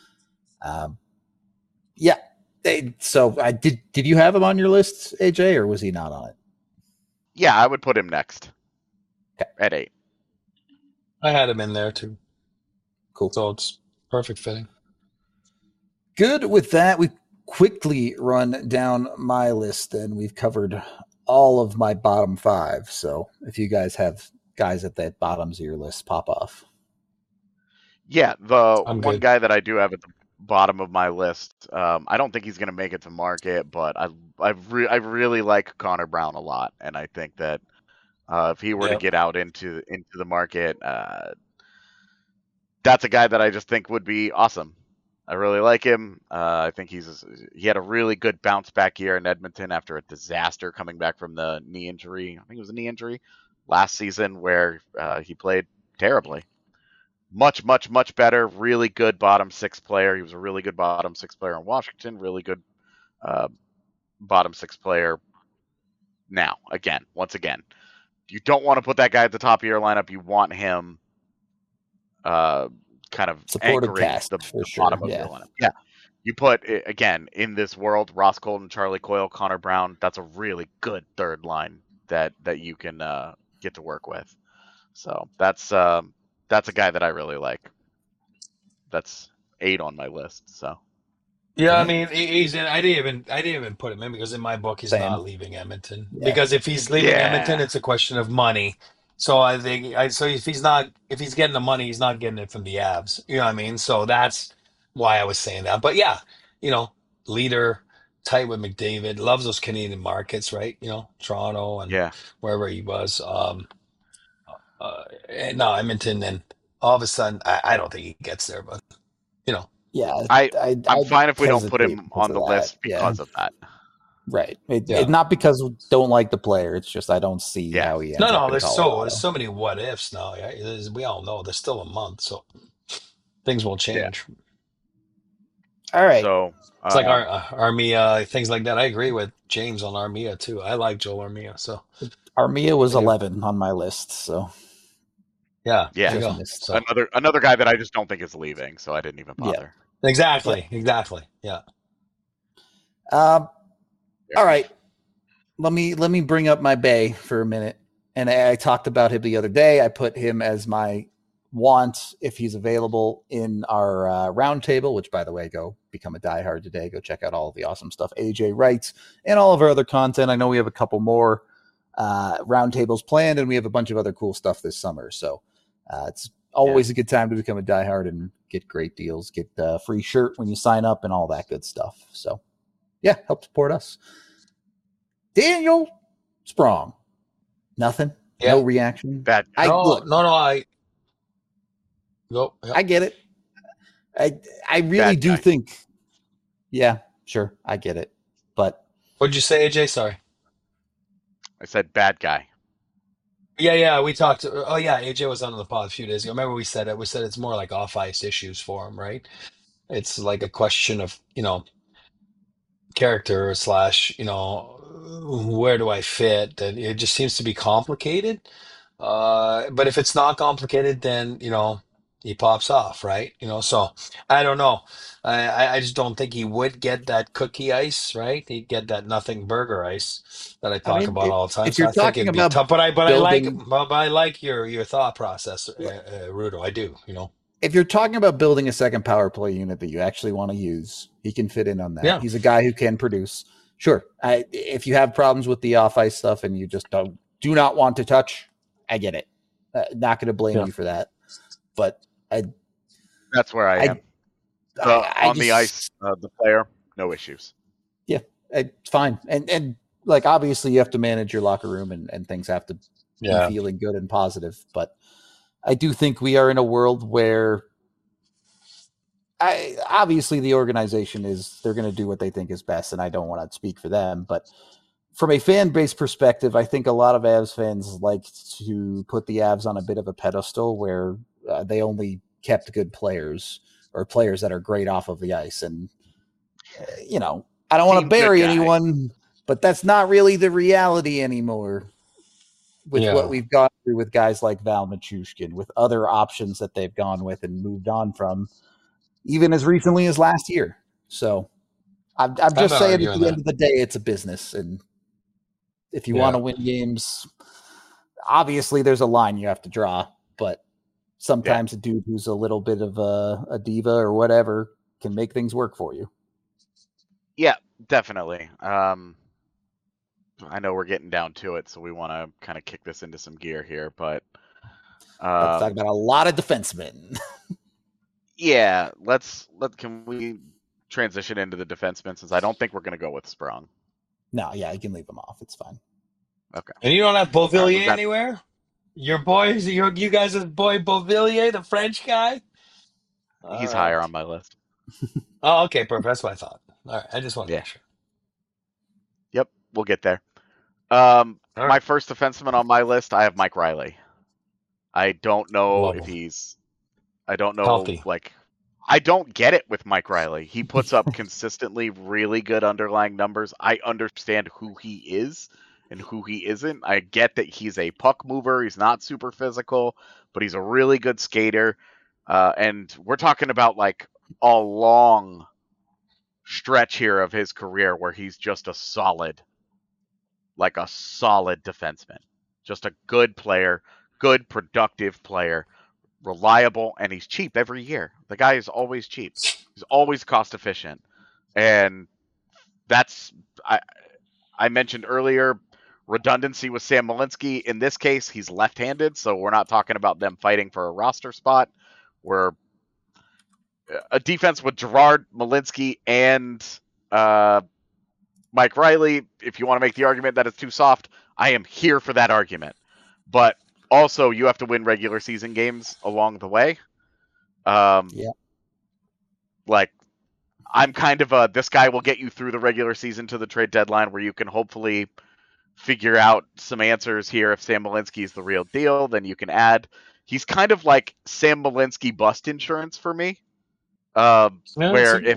Yeah. So I did you have him on your list, AJ, or was he not on it? Yeah, I would put him next. Okay. At 8. I had him in there too. Cool. So it's perfect fitting. Good. With that, we quickly run down my list, and we've covered all of my bottom 5. So if you guys have guys at the bottoms of your list, pop off. Yeah, the I'm one good. guy that I do have at the bottom of my list, I don't think he's going to make it to market, but I really like Connor Brown a lot, and I think that if he were to get out into the market, that's a guy that I just think would be awesome. I really like him. I think he had a really good bounce back year in Edmonton after a disaster coming back from the knee injury. I think it was a knee injury last season where he played terribly. Much better. Really good bottom 6 player. He was a really good bottom 6 player in Washington. Really good bottom 6 player now. Once again. You don't want to put that guy at the top of your lineup. You want him kind of supported anchoring cast, the sure. bottom of your lineup. Yeah. You put, again, in this world, Ross Colton, Charlie Coyle, Connor Brown, that's a really good third line that you can get to work with. So that's a guy that I really like. That's 8 on my list. So yeah, I mean, he's in. I didn't even put him in because in my book he's not leaving Edmonton. Yeah. Because if he's leaving Edmonton, it's a question of money. So I think if he's getting the money, he's not getting it from the Avs. You know what I mean? So that's why I was saying that. But yeah, leader, tight with McDavid, loves those Canadian markets, right? Toronto and wherever he was. No, Edmonton, and all of a sudden, I don't think he gets there, but yeah, I'm fine if we don't put him on the list because of that. Right. It's not because we don't like the player. It's just I don't see how he ends up in there's Colorado. so many what ifs now. Yeah? We all know there's still a month, so things will change. Yeah. All right. So it's like Armia, things like that. I agree with James on Armia too. I like Joel Armia. So Armia was 11 on my list. So yeah. So. Another guy that I just don't think is leaving, so I didn't even bother. Yeah. Exactly. Yeah. All right. Let me bring up my Bay for a minute. And I talked about him the other day. I put him as my want if he's available in our roundtable, which, by the way, go become a diehard today. Go check out all of the awesome stuff AJ writes and all of our other content. I know we have a couple more roundtables planned, and we have a bunch of other cool stuff this summer. So it's always a good time to become a diehard and get great deals, get a free shirt when you sign up and all that good stuff. So yeah, help support us. Daniel Sprong. Nothing. Yeah. No reaction. Bad. I get it. I really do think. Yeah, sure. I get it. But what'd you say, AJ? Sorry. I said bad guy. Yeah, we talked. Oh yeah, AJ was on the pod a few days ago. Remember we said it. We said it's more like off ice issues for him, right? It's like a question of character / where do I fit? And it just seems to be complicated. But if it's not complicated, then he pops off, right? So I don't know. I just don't think he would get that cookie ice, right? He'd get that nothing burger ice that I talk about all the time. If you're talking about tough, but I like your thought process, Rudo. I do, If you're talking about building a second power play unit that you actually want to use, he can fit in on that. Yeah. He's a guy who can produce. Sure. If you have problems with the off ice stuff and you just do not want to touch, I get it. Not going to blame you for that. But that's where I am. On the ice, the player, no issues. Yeah, it's fine. And like obviously you have to manage your locker room and things have to be Yeah. feeling good and positive. But I do think we are in a world where obviously the organization is they're going to do what they think is best, and I don't want to speak for them, but from a fan base perspective, I think a lot of Avs fans like to put the Avs on a bit of a pedestal where they only kept good players or players that are great off of the ice. And, I don't want to Team good bury guy. anyone, but that's not really the reality anymore with what Yeah. we've gone through with guys like Val Machushkin, with other options that they've gone with and moved on from, even as recently as last year. So I'm I'm just not saying at arguing the end that. of the day, it's a business. And if you want Yeah. to win games, obviously there's a line you have to draw, but Yeah. sometimes a dude who's a little bit of a diva or whatever can make things work for you. Yeah, definitely. I know we're getting down to it, so we want to kind of kick this into some gear here, but Let's talk about a lot of defensemen. yeah, can we transition into the defensemen since I don't think we're going to go with Sprung. No, yeah, you can leave them off. It's fine. Okay. And you don't have All right, we've Beauvillier got anywhere? Your boys, you guys' boy Beauvillier, the French guy? All he's right. higher on my list. Oh, okay, perfect. That's what I thought. All right. I just want to Yeah. make sure. Yep, we'll get there. All My right. first defenseman on my list, I have Mike Riley. I don't know Love if him. I don't know, Healthy. like, I don't get it with Mike Riley. He puts up consistently really good underlying numbers. I understand who he is and who he isn't. I get that he's a puck mover. He's not super physical, but he's a really good skater. And we're talking about like a long stretch here of his career where he's just a solid defenseman. Just a good player, good productive player, reliable, and he's cheap every year. The guy is always cheap. He's always cost efficient. And that's I mentioned earlier redundancy with Sam Malinsky. In this case, he's left-handed, so we're not talking about them fighting for a roster spot. We're a defense with Gerard Malinsky and Mike Riley. If you want to make the argument that it's too soft, I am here for that argument. But also, you have to win regular season games along the way. Yeah. Like, I'm kind of this guy will get you through the regular season to the trade deadline where you can hopefully figure out some answers here. If Sam Malinsky is the real deal, then you can add. He's kind of like Sam Malinsky bust insurance for me. Yeah, Where if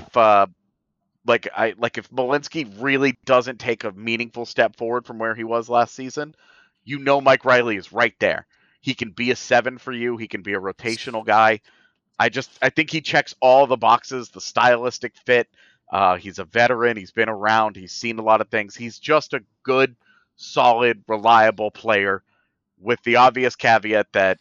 if Malinsky really doesn't take a meaningful step forward from where he was last season, Mike Riley is right there. He can be a 7 for you. He can be a rotational guy. I think he checks all the boxes, the stylistic fit. He's a veteran. He's been around. He's seen a lot of things. He's just a good, solid, reliable player with the obvious caveat that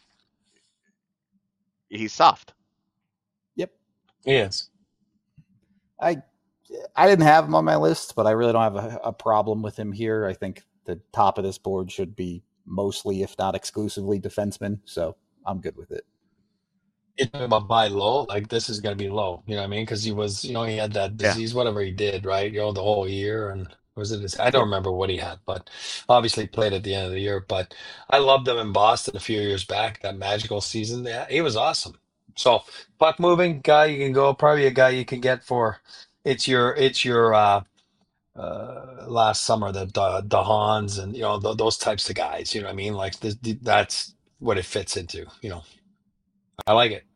he's soft. Yep. he is. I didn't have him on my list, but I really don't have a problem with him here. I think the top of this board should be mostly, if not exclusively, defensemen. So I'm good with it. You're talking about buy low, like this is going to be low. You know what I mean? Because he was, he had that Yeah. disease, whatever he did, right? The whole year, and was it? I don't Yep. remember what he had, but obviously played at the end of the year. But I loved him in Boston a few years back, that magical season. Yeah, he was awesome. So puck moving guy, you can go probably a guy you can get for. It's your last summer the Hans and those types of guys. You know what I mean? Like that's what it fits into. I like it.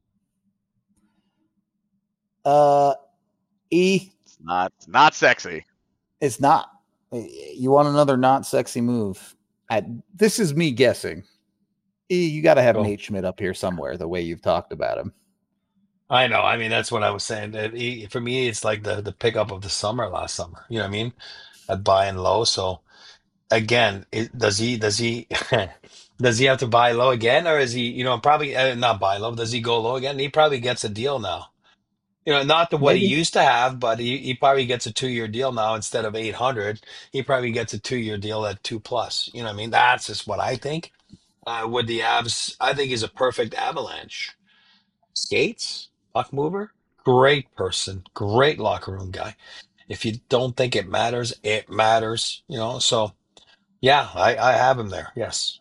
E, It's not sexy. it's not. You want another not sexy move? This is me guessing. E, you got to have Go. Nate Schmidt up here somewhere. The way you've talked about him. I know. I mean, that's what I was saying. For me, it's like the pickup of the summer last summer. You know what I mean? At buy and low. So again, does he does he have to buy low again, or is he probably not buy low? Does he go low again? He probably gets a deal now. Not the what he Maybe. used to have, but he probably gets a 2 year deal now instead of 800. He probably gets a 2 year deal at 2 plus. You know what I mean? That's just what I think. With the Avs, I think he's a perfect avalanche. Skates, puck mover, great person, great locker room guy. If you don't think it matters, it matters. So yeah, I have him there. Yes.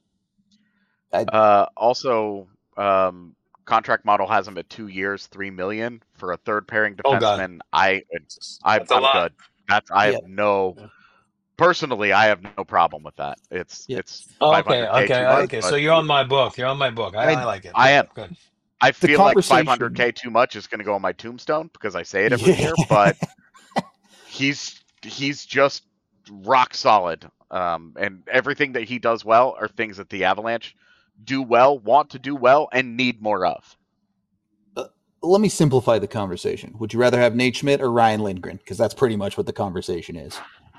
Also, contract model has him at 2 years, 3 million for a third pairing Oh God, defenseman. that's a I'm lot. good. I Yeah, have no personally. I have no problem with that. yeah. It's Oh, okay, 500k okay, too much, okay. So but you're on my book. You're on my book. I I like it. I Good, am. good. I the feel like conversation. 500k too much is going to go on my tombstone because I say it every Yeah. year. But he's just rock solid. And everything that he does well are things that the Avalanche do well, want to do well, and need more of. Let me simplify the conversation. Would you rather have Nate Schmidt or Ryan Lindgren? Because that's pretty much what the conversation is.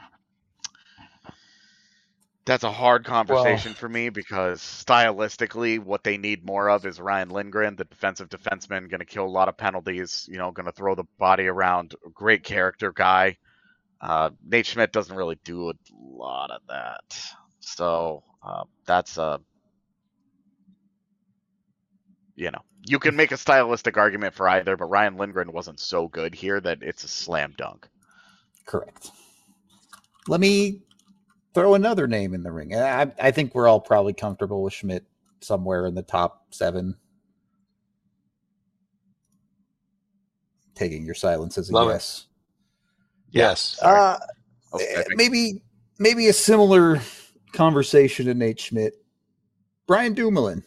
That's a hard Well, conversation for me because stylistically, what they need more of is Ryan Lindgren, the defensive defenseman, going to kill a lot of penalties, going to throw the body around, great character guy. Nate Schmidt doesn't really do a lot of that. So that's you can make a stylistic argument for either, but Ryan Lindgren wasn't so good here that it's a slam dunk. Correct. Let me throw another name in the ring. I think we're all probably comfortable with Schmidt somewhere in the top 7. Taking your silence as a love it. yes. Yeah, Yes. sorry. Maybe a similar conversation to Nate Schmidt. Brian Dumoulin.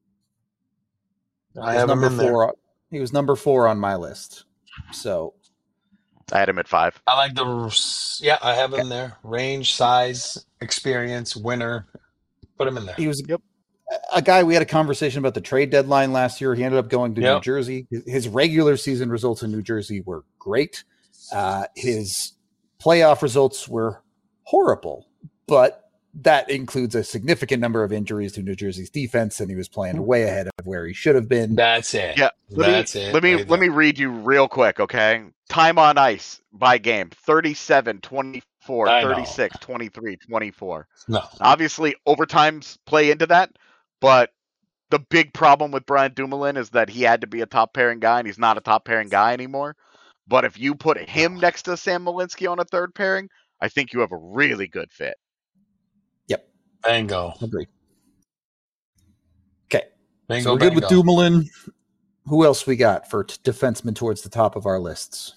I have him number in there. 4. He was number 4 on my list. So I had him at 5. I like I have him there. Range, size, experience, winner. Put him in there. he was Yep. a guy we had a conversation about the trade deadline last year. He ended up going to New Yep. Jersey. His regular season results in New Jersey were great. His playoff results were horrible, but that includes a significant number of injuries to New Jersey's defense, and he was playing way ahead of where he should have been. That's it. Yeah. Let me read you real quick, okay? Time on ice by game: 37, 24, I know. 36, 23, 24. No. Obviously, overtimes play into that, but the big problem with Brian Dumoulin is that he had to be a top pairing guy, and he's not a top pairing guy anymore. But if you put him next to Sam Malinsky on a third pairing, I think you have a really good fit. Yep. Bingo. Agreed. Okay. Bingo, So we're good with Dumoulin. Who else we got for defensemen towards the top of our lists?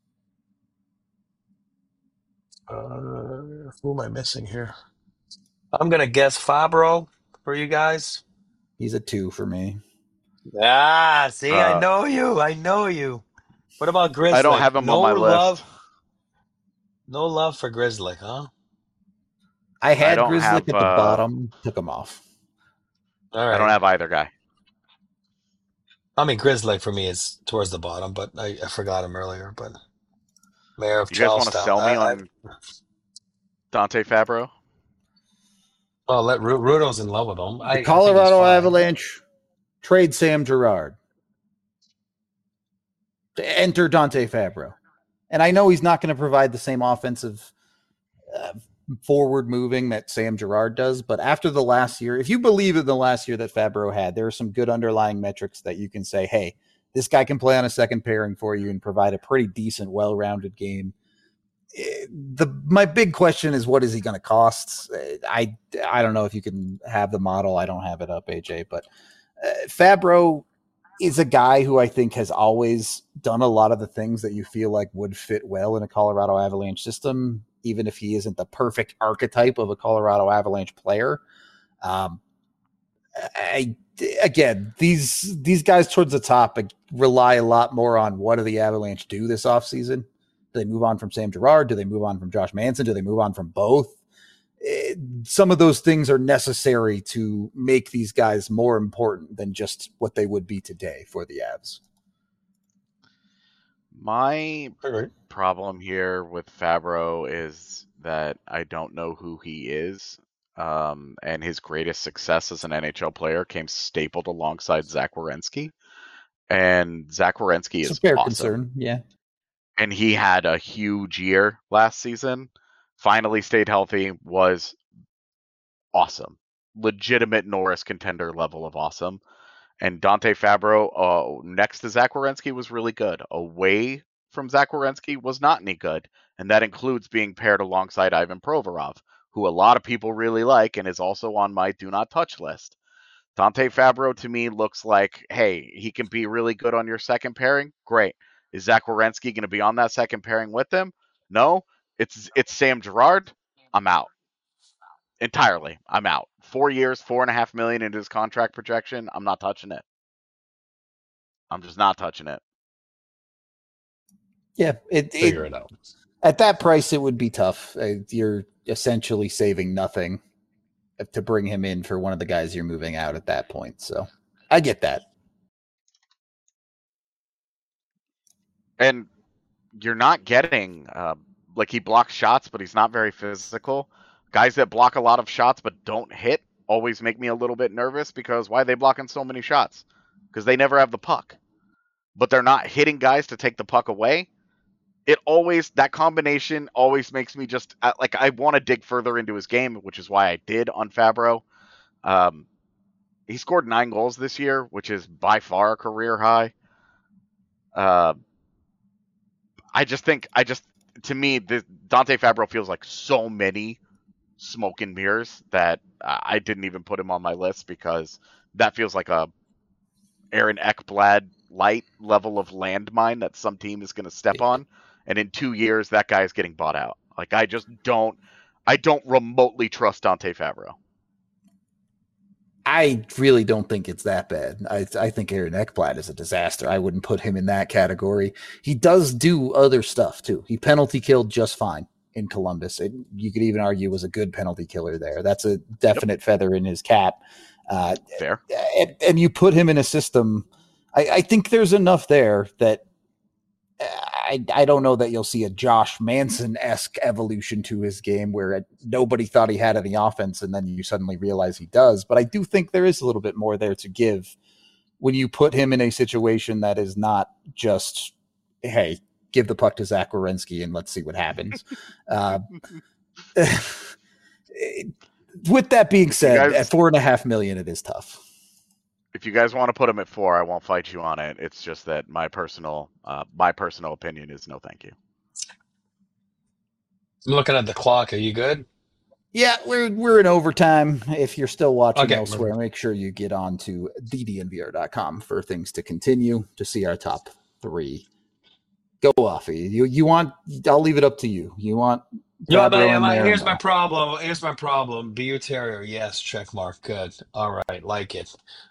Who am I missing here? I'm going to guess Fabro for you guys. He's a 2 for me. See, I know you. What about Grizzly? I don't have him on my list. No love for Grizzly, huh? I had Grizzly at the bottom, took him off. All right. I don't have either guy. I mean, Grizzly for me is towards the bottom, but I forgot him earlier. But Mayor of You guys want to Charlestown. sell me on Dante Fabro? Well, let Rudo's in love with him. The Colorado Avalanche trade Sam Girard to enter Dante Fabro. And I know he's not going to provide the same offensive forward moving that Sam Girard does, but after the last year, if you believe in the last year that Fabro had, there are some good underlying metrics that you can say, hey, this guy can play on a second pairing for you and provide a pretty decent, well-rounded game. My big question is, what is he going to cost? I don't know if you can have the model. I don't have it up, AJ, but Fabro is a guy who I think has always done a lot of the things that you feel like would fit well in a Colorado Avalanche system, even if he isn't the perfect archetype of a Colorado Avalanche player. Again, these guys towards the top rely a lot more on what do the Avalanche do this offseason. Do they move on from Sam Girard? Do they move on from Josh Manson? Do they move on from both? Some of those things are necessary to make these guys more important than just what they would be today for the Avs. My problem here with Fabro is that I don't know who he is. And his greatest success as an NHL player came stapled alongside Zach Werenski. And Zach Werenski is a fair concern, yeah. And he had a huge year last season. Finally stayed healthy, was awesome. Legitimate Norris contender level of awesome. And Dante Fabro, next to Zach Werenski, was really good. A way from Zach Werenski was not any good, and that includes being paired alongside Ivan Provorov, who a lot of people really like and is also on my do not touch list. Dante Fabro to me looks like, hey, he can be really good on your second pairing. Great. Is Zach Werenski going to be on that second pairing with him? No. It's Sam Girard. I'm out. Entirely. I'm out. 4 years, $4.5 million into his contract projection. I'm not touching it. I'm just not touching it. Yeah, Figure it out. At that price, it would be tough. You're essentially saving nothing to bring him in for one of the guys you're moving out at that point. So I get that. And you're not getting, like, he blocks shots, but he's not very physical. Guys that block a lot of shots but don't hit always make me a little bit nervous, because why are they blocking so many shots? Because they never have the puck. But they're not hitting guys to take the puck away. That combination always makes me just, like, I want to dig further into his game, which is why I did on Fabro. He scored 9 goals this year, which is by far a career high. To me, Dante Fabro feels like so many smoke and mirrors that I didn't even put him on my list, because that feels like a Aaron Ekblad light level of landmine that some team is going to step on. And in 2 years, that guy is getting bought out. Like, I don't remotely trust Dante Fabro. I really don't think it's that bad. I think Aaron Ekblad is a disaster. I wouldn't put him in that category. He does do other stuff too. He penalty killed just fine in Columbus. You could even argue was a good penalty killer there. That's a definite feather in his cap. Fair. And you put him in a system. I think there's enough there that I don't know that you'll see a Josh Manson-esque evolution to his game where nobody thought he had any offense and then you suddenly realize he does. But I do think there is a little bit more there to give when you put him in a situation that is not just, hey, give the puck to Zach Werenski and let's see what happens. With that being said, at $4.5 million, it is tough. If you guys want to put him at 4, I won't fight you on it. It's just that my personal opinion is no, thank you. I'm looking at the clock. Are you good? Yeah, we're in overtime. If you're still watching elsewhere, Okay. make sure you get on to thednvr.com for things to continue to see our top 3. Go off. You want? I'll leave it up to you. You want? No, Fabro in but there? here's No. my problem. Here's my problem. Bu Terrier, yes, check mark. Good. All right, like it.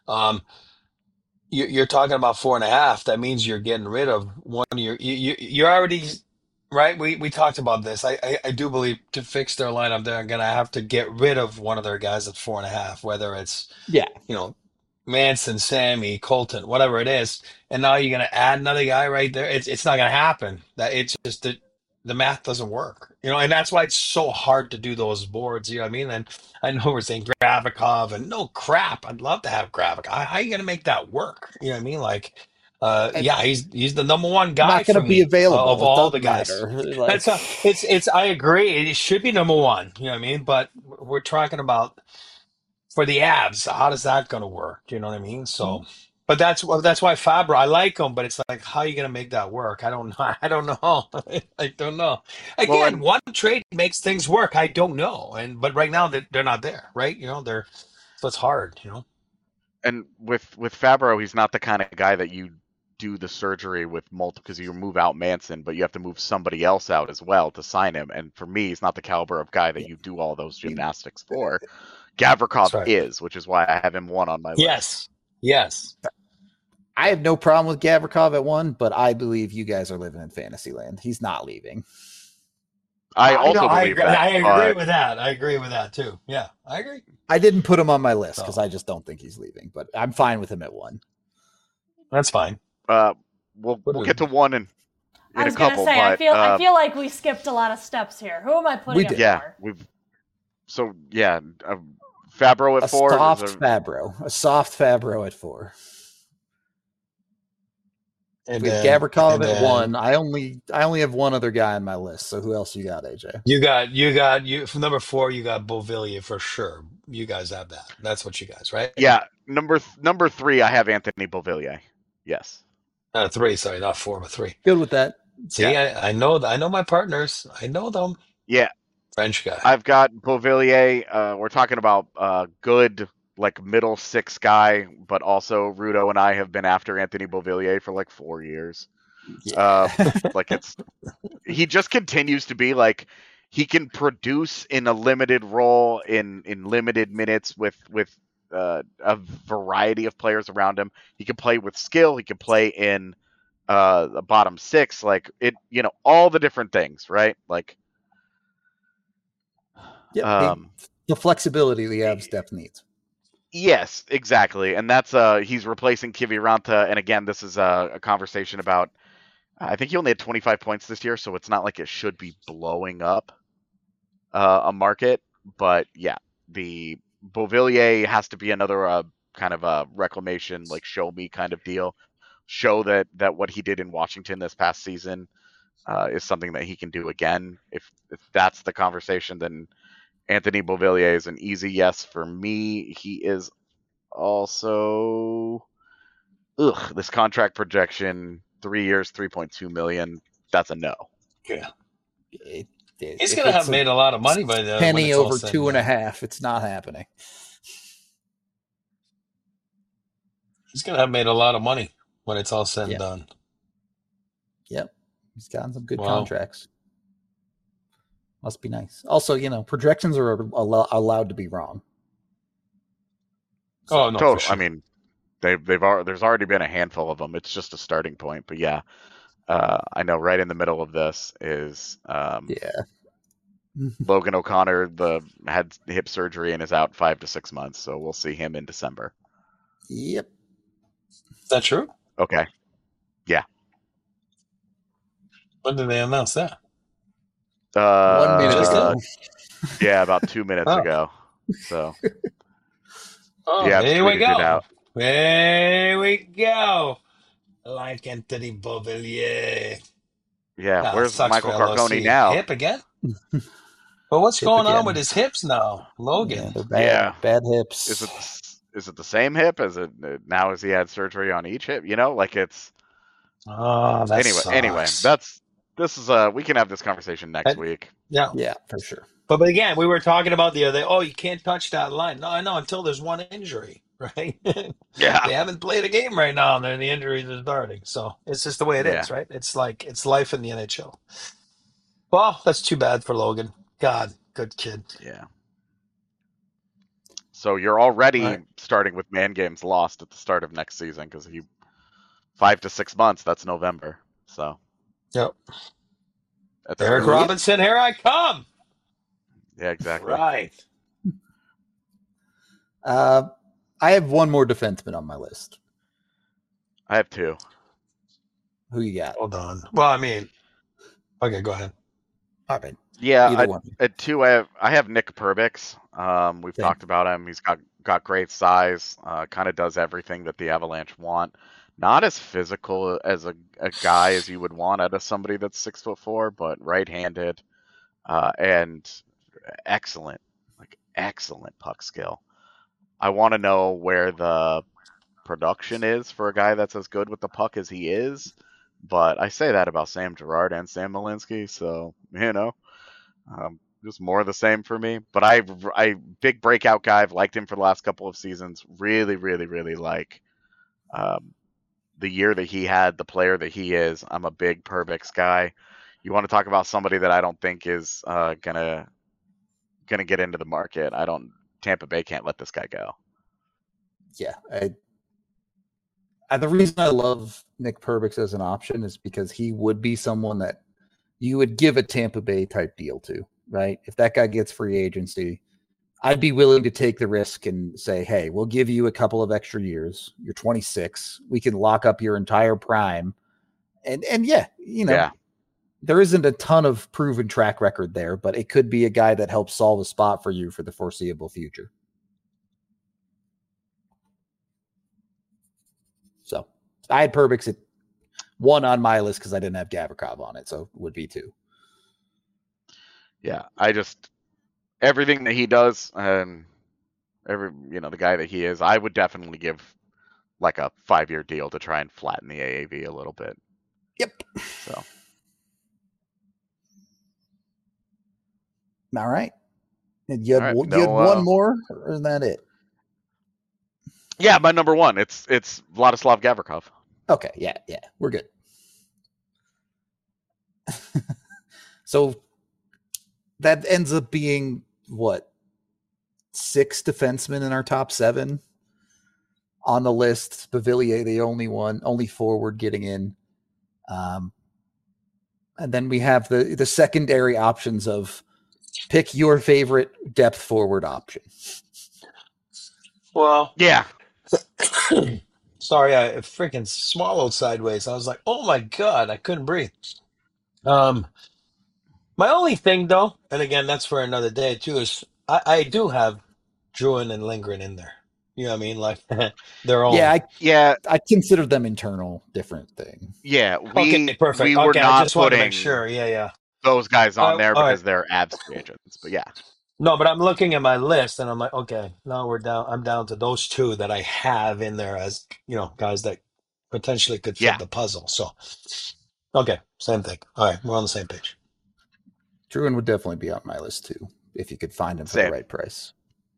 You're talking about 4.5. That means you're getting rid of one of you're already right. We talked about this. I do believe to fix their lineup, they're gonna have to get rid of one of their guys at 4.5, whether it's Yeah. Manson, Sammy, Colton, whatever it is, and now you're gonna add another guy right there. It's not gonna happen. That it's just that the math doesn't work, and that's why it's so hard to do those boards. You know what I mean? And I know we're saying Gravikov, and no crap, I'd love to have Gravikov. How are you gonna make that work? You know what I mean? Like, yeah, he's the number one guy Not going for to be me available. of It all the doesn't guys. matter. Like, It's. I agree. It should be number one. You know what I mean? But we're talking about for the abs. How does that going to work? You know what I mean? So, but that's why Fabro. I like him, but it's like, how are you going to make that work? I don't know. I don't know. I don't know. Again, one trade makes things work. I don't know. But right now they're not there, right? So it's hard. And with Fabro, he's not the kind of guy that you do the surgery with multiple, because you move out Manson, but you have to move somebody else out as well to sign him. And for me, he's not the caliber of guy that you do all those gymnastics for. Gavrikov is, which is why I have him 1 on my list. Yes. I have no problem with Gavrikov at 1, but I believe you guys are living in fantasy land. He's not leaving. I believe that. I agree with that. I agree with that too. Yeah, I agree. I didn't put him on my list because I just don't think he's leaving, but I'm fine with him at 1. That's fine. We'll get to 1 in a couple. Say, but, I feel like we skipped a lot of steps here. Who am I putting at 4? Fabro at 4. A soft Fabro at 4. And with Gavrikov at 1. I only have one other guy on my list. So who else you got, AJ? You got from number 4. You got Beauvillier for sure. You guys have that. That's what you guys, right? Yeah, number 3. I have Anthony Beauvillier. Yes. 3. Sorry, not 4, but 3. Good with that. See, I know my partners. I know them. Yeah, French guy. I've got Beauvillier. We're talking about good, like, middle six guy, but also Rudo and I have been after Anthony Beauvillier for like 4 years. Yeah. Like, he just continues to be like, he can produce in a limited role in limited minutes with a variety of players around him. He can play with skill. He can play in the bottom six, like it, all the different things, right? Like, Yep. The flexibility the Avs depth needs. Yes, exactly, and that's he's replacing Kiviranta. And again, this is a conversation about. I think he only had 25 points this year, so it's not like it should be blowing up a market. But yeah, the Beauvillier has to be another kind of a reclamation, like, show me kind of deal. Show that what he did in Washington this past season is something that he can do again. If that's the conversation, then Anthony Beauvillier is an easy yes for me. He is also this contract projection, 3 years, $3.2 million. That's a no. Yeah. He's going to have made a lot of money by the penny over 2.5. It's not happening. He's going to have made a lot of money when it's all said and done. Yep. He's gotten some good contracts. Must be nice. Also, projections are allowed to be wrong. So, oh no! Totally. Sure. I mean, there's already been a handful of them. It's just a starting point. But yeah, I know right in the middle of this is Logan O'Connor had hip surgery and is out 5 to 6 months. So we'll see him in December. Yep. Is that true? Okay. Yeah. When did they announce that? 1 minute ago. Yeah, about 2 minutes ago. So. Yeah, here we go. Here we go. Like Anthony Beauvillier. Yeah, where's Michael Carcone now? Hip again? Well, what's going on with his hips now, Logan? Yeah, they're bad. Bad hips. Is it the same hip? Is it now? Has he had surgery on each hip? Like it's. Oh, that anyway, this is we can have this conversation next week. Yeah, for sure. But again, we were talking about the other day. Oh, you can't touch that line. No, I know, until there's one injury, right? Yeah. They haven't played a game right now, and then the injuries are starting. So it's just the way it is, right? It's like it's life in the NHL. Well, that's too bad for Logan. God, good kid. Yeah. So you're already starting with man games lost at the start of next season because 5 to 6 months. That's November. So. Yep. Eric Robinson, here I come. Yeah, exactly. Right. I have one more defenseman on my list. I have 2. Who you got? Hold on. Well, I mean, okay, go ahead. All right. Yeah, at 2, I have Nick Perbix. We've talked about him. He's got great size. Kind of does everything that the Avalanche want. Not as physical as a guy as you would want out of somebody that's 6'4", but right-handed, and excellent puck skill. I want to know where the production is for a guy that's as good with the puck as he is, but I say that about Sam Girard and Sam Malinsky, so just more of the same for me. But I big breakout guy. I've liked him for the last couple of seasons. Really, really, really like the year that he had, the player that he is. I'm a big Perbix guy. You want to talk about somebody that I don't think is gonna get into the market. Tampa Bay can't let this guy go. Yeah. The reason I love Nick Perbix as an option is because he would be someone that you would give a Tampa Bay type deal to, right? If that guy gets free agency, I'd be willing to take the risk and say, hey, we'll give you a couple of extra years. You're 26. We can lock up your entire prime. And there isn't a ton of proven track record there, but it could be a guy that helps solve a spot for you for the foreseeable future. So I had Perbix at 1 on my list because I didn't have Gavrikov on it, so it would be 2. Yeah, everything that he does, the guy that he is, I would definitely give like a 5-year deal to try and flatten the AAV a little bit. Yep. So All right. And you had, All right, you had one more, or is that it? Yeah, my number one. It's Vladislav Gavrikov. Okay, yeah, we're good. So that ends up being what? 6 defensemen in our top 7 on the list. Beauvillier, the only forward getting in. And then we have the secondary options of pick your favorite depth forward option. Well, Yeah. Sorry, I freaking swallowed sideways. I was like, oh my God, I couldn't breathe. My only thing though, and again, that's for another day too, is I do have Druin and Lindgren in there. You know what I mean? Like their own. I consider them internal, different thing. Yeah, Okay, perfect. we were Okay, not I just wanted to make putting sure. Yeah. those guys on there all because right. they're Avs free agents. But yeah. No, but I'm looking at my list and I'm like, okay, now we're down. I'm down to those 2 that I have in there as, guys that potentially could fit the puzzle. So, okay, same thing. All right, we're on the same page. Druin would definitely be on my list too, if you could find him for the right price.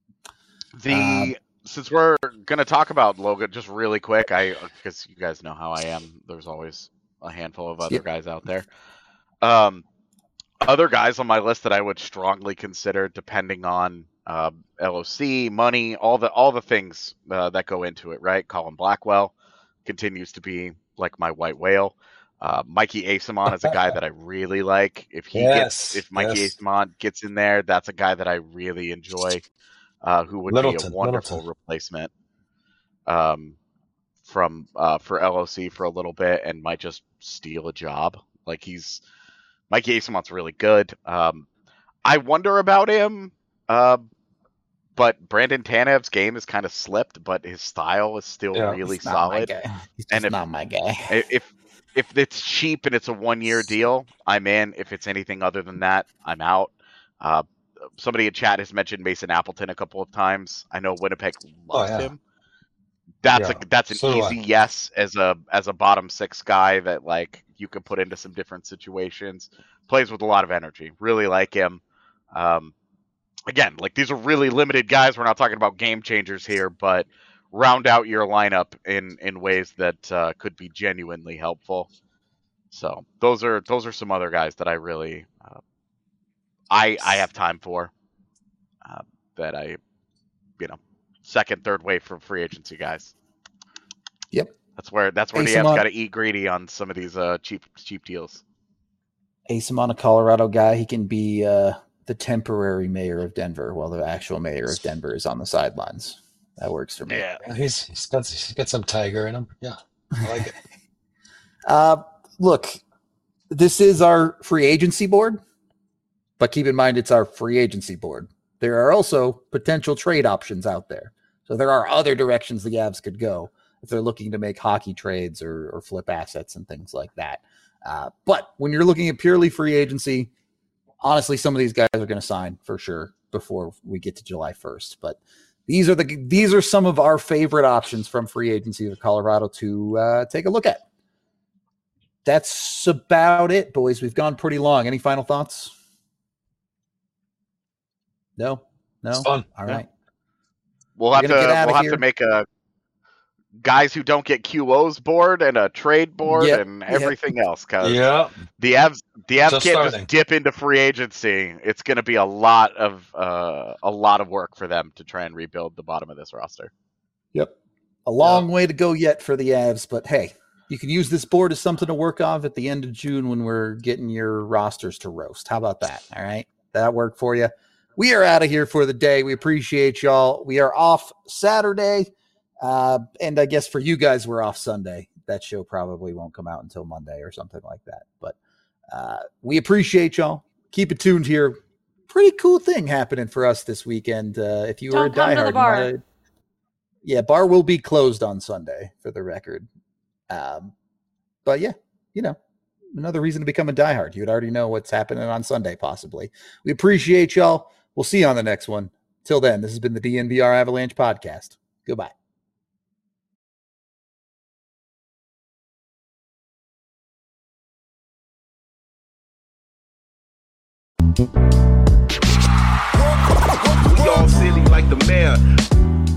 Since we're gonna talk about Logan just really quick, because you guys know how I am. There's always a handful of other guys out there. Other guys on my list that I would strongly consider, depending on LOC, money, all the things that go into it, right? Colin Blackwell continues to be like my white whale. Mikey Asimon is a guy that I really like. If Mikey Asimon gets in there, that's a guy that I really enjoy, who would be a wonderful replacement for LOC for a little bit and might just steal a job. Like Mikey Asimon's really good. I wonder about him, but Brandon Tanev's game has kind of slipped, but his style is still really solid. He's just not my guy. If it's cheap and it's a 1-year deal, I'm in. If it's anything other than that, I'm out. Somebody in chat has mentioned Mason Appleton a couple of times. I know Winnipeg loves him. That's an easy yes as a bottom 6 guy that like you can put into some different situations. Plays with a lot of energy. Really like him. Again, like these are really limited guys. We're not talking about game changers here, but round out your lineup in ways that could be genuinely helpful. So those are some other guys that I really I have time for that I second, third wave for free agency guys. Yep. That's where the Avs got to eat greedy on some of these cheap deals. Asimon, a Colorado guy, he can be the temporary mayor of Denver while the actual mayor of Denver is on the sidelines. That works for me. Yeah, he's got some tiger in him. Yeah, I like it. Look, this is our free agency board, but keep in mind it's our free agency board. There are also potential trade options out there. So there are other directions the Avs could go if they're looking to make hockey trades or flip assets and things like that. But when you're looking at purely free agency, honestly, some of these guys are going to sign for sure before we get to July 1st. But these are some of our favorite options from free agency of Colorado to take a look at. That's about it, boys. We've gone pretty long. Any final thoughts? No. It's fun. All right. We'll have to make a guys who don't get QOs board and a trade board and everything else. Cause the Avs can't just dip into free agency. It's going to be a lot of work for them to try and rebuild the bottom of this roster. Yep. A long way to go yet for the Avs, but hey, you can use this board as something to work off at the end of June when we're getting your rosters to roast. How about that? All right. That worked for you. We are out of here for the day. We appreciate y'all. We are off Saturday. And I guess for you guys, we're off Sunday. That show probably won't come out until Monday or something like that. But we appreciate y'all. Keep it tuned here. Pretty cool thing happening for us this weekend. If you were a diehard, bar will be closed on Sunday for the record. But yeah, another reason to become a diehard. You would already know what's happening on Sunday, possibly. We appreciate y'all. We'll see you on the next one. Till then, this has been the DNVR Avalanche podcast. Goodbye. all silly like the mayor.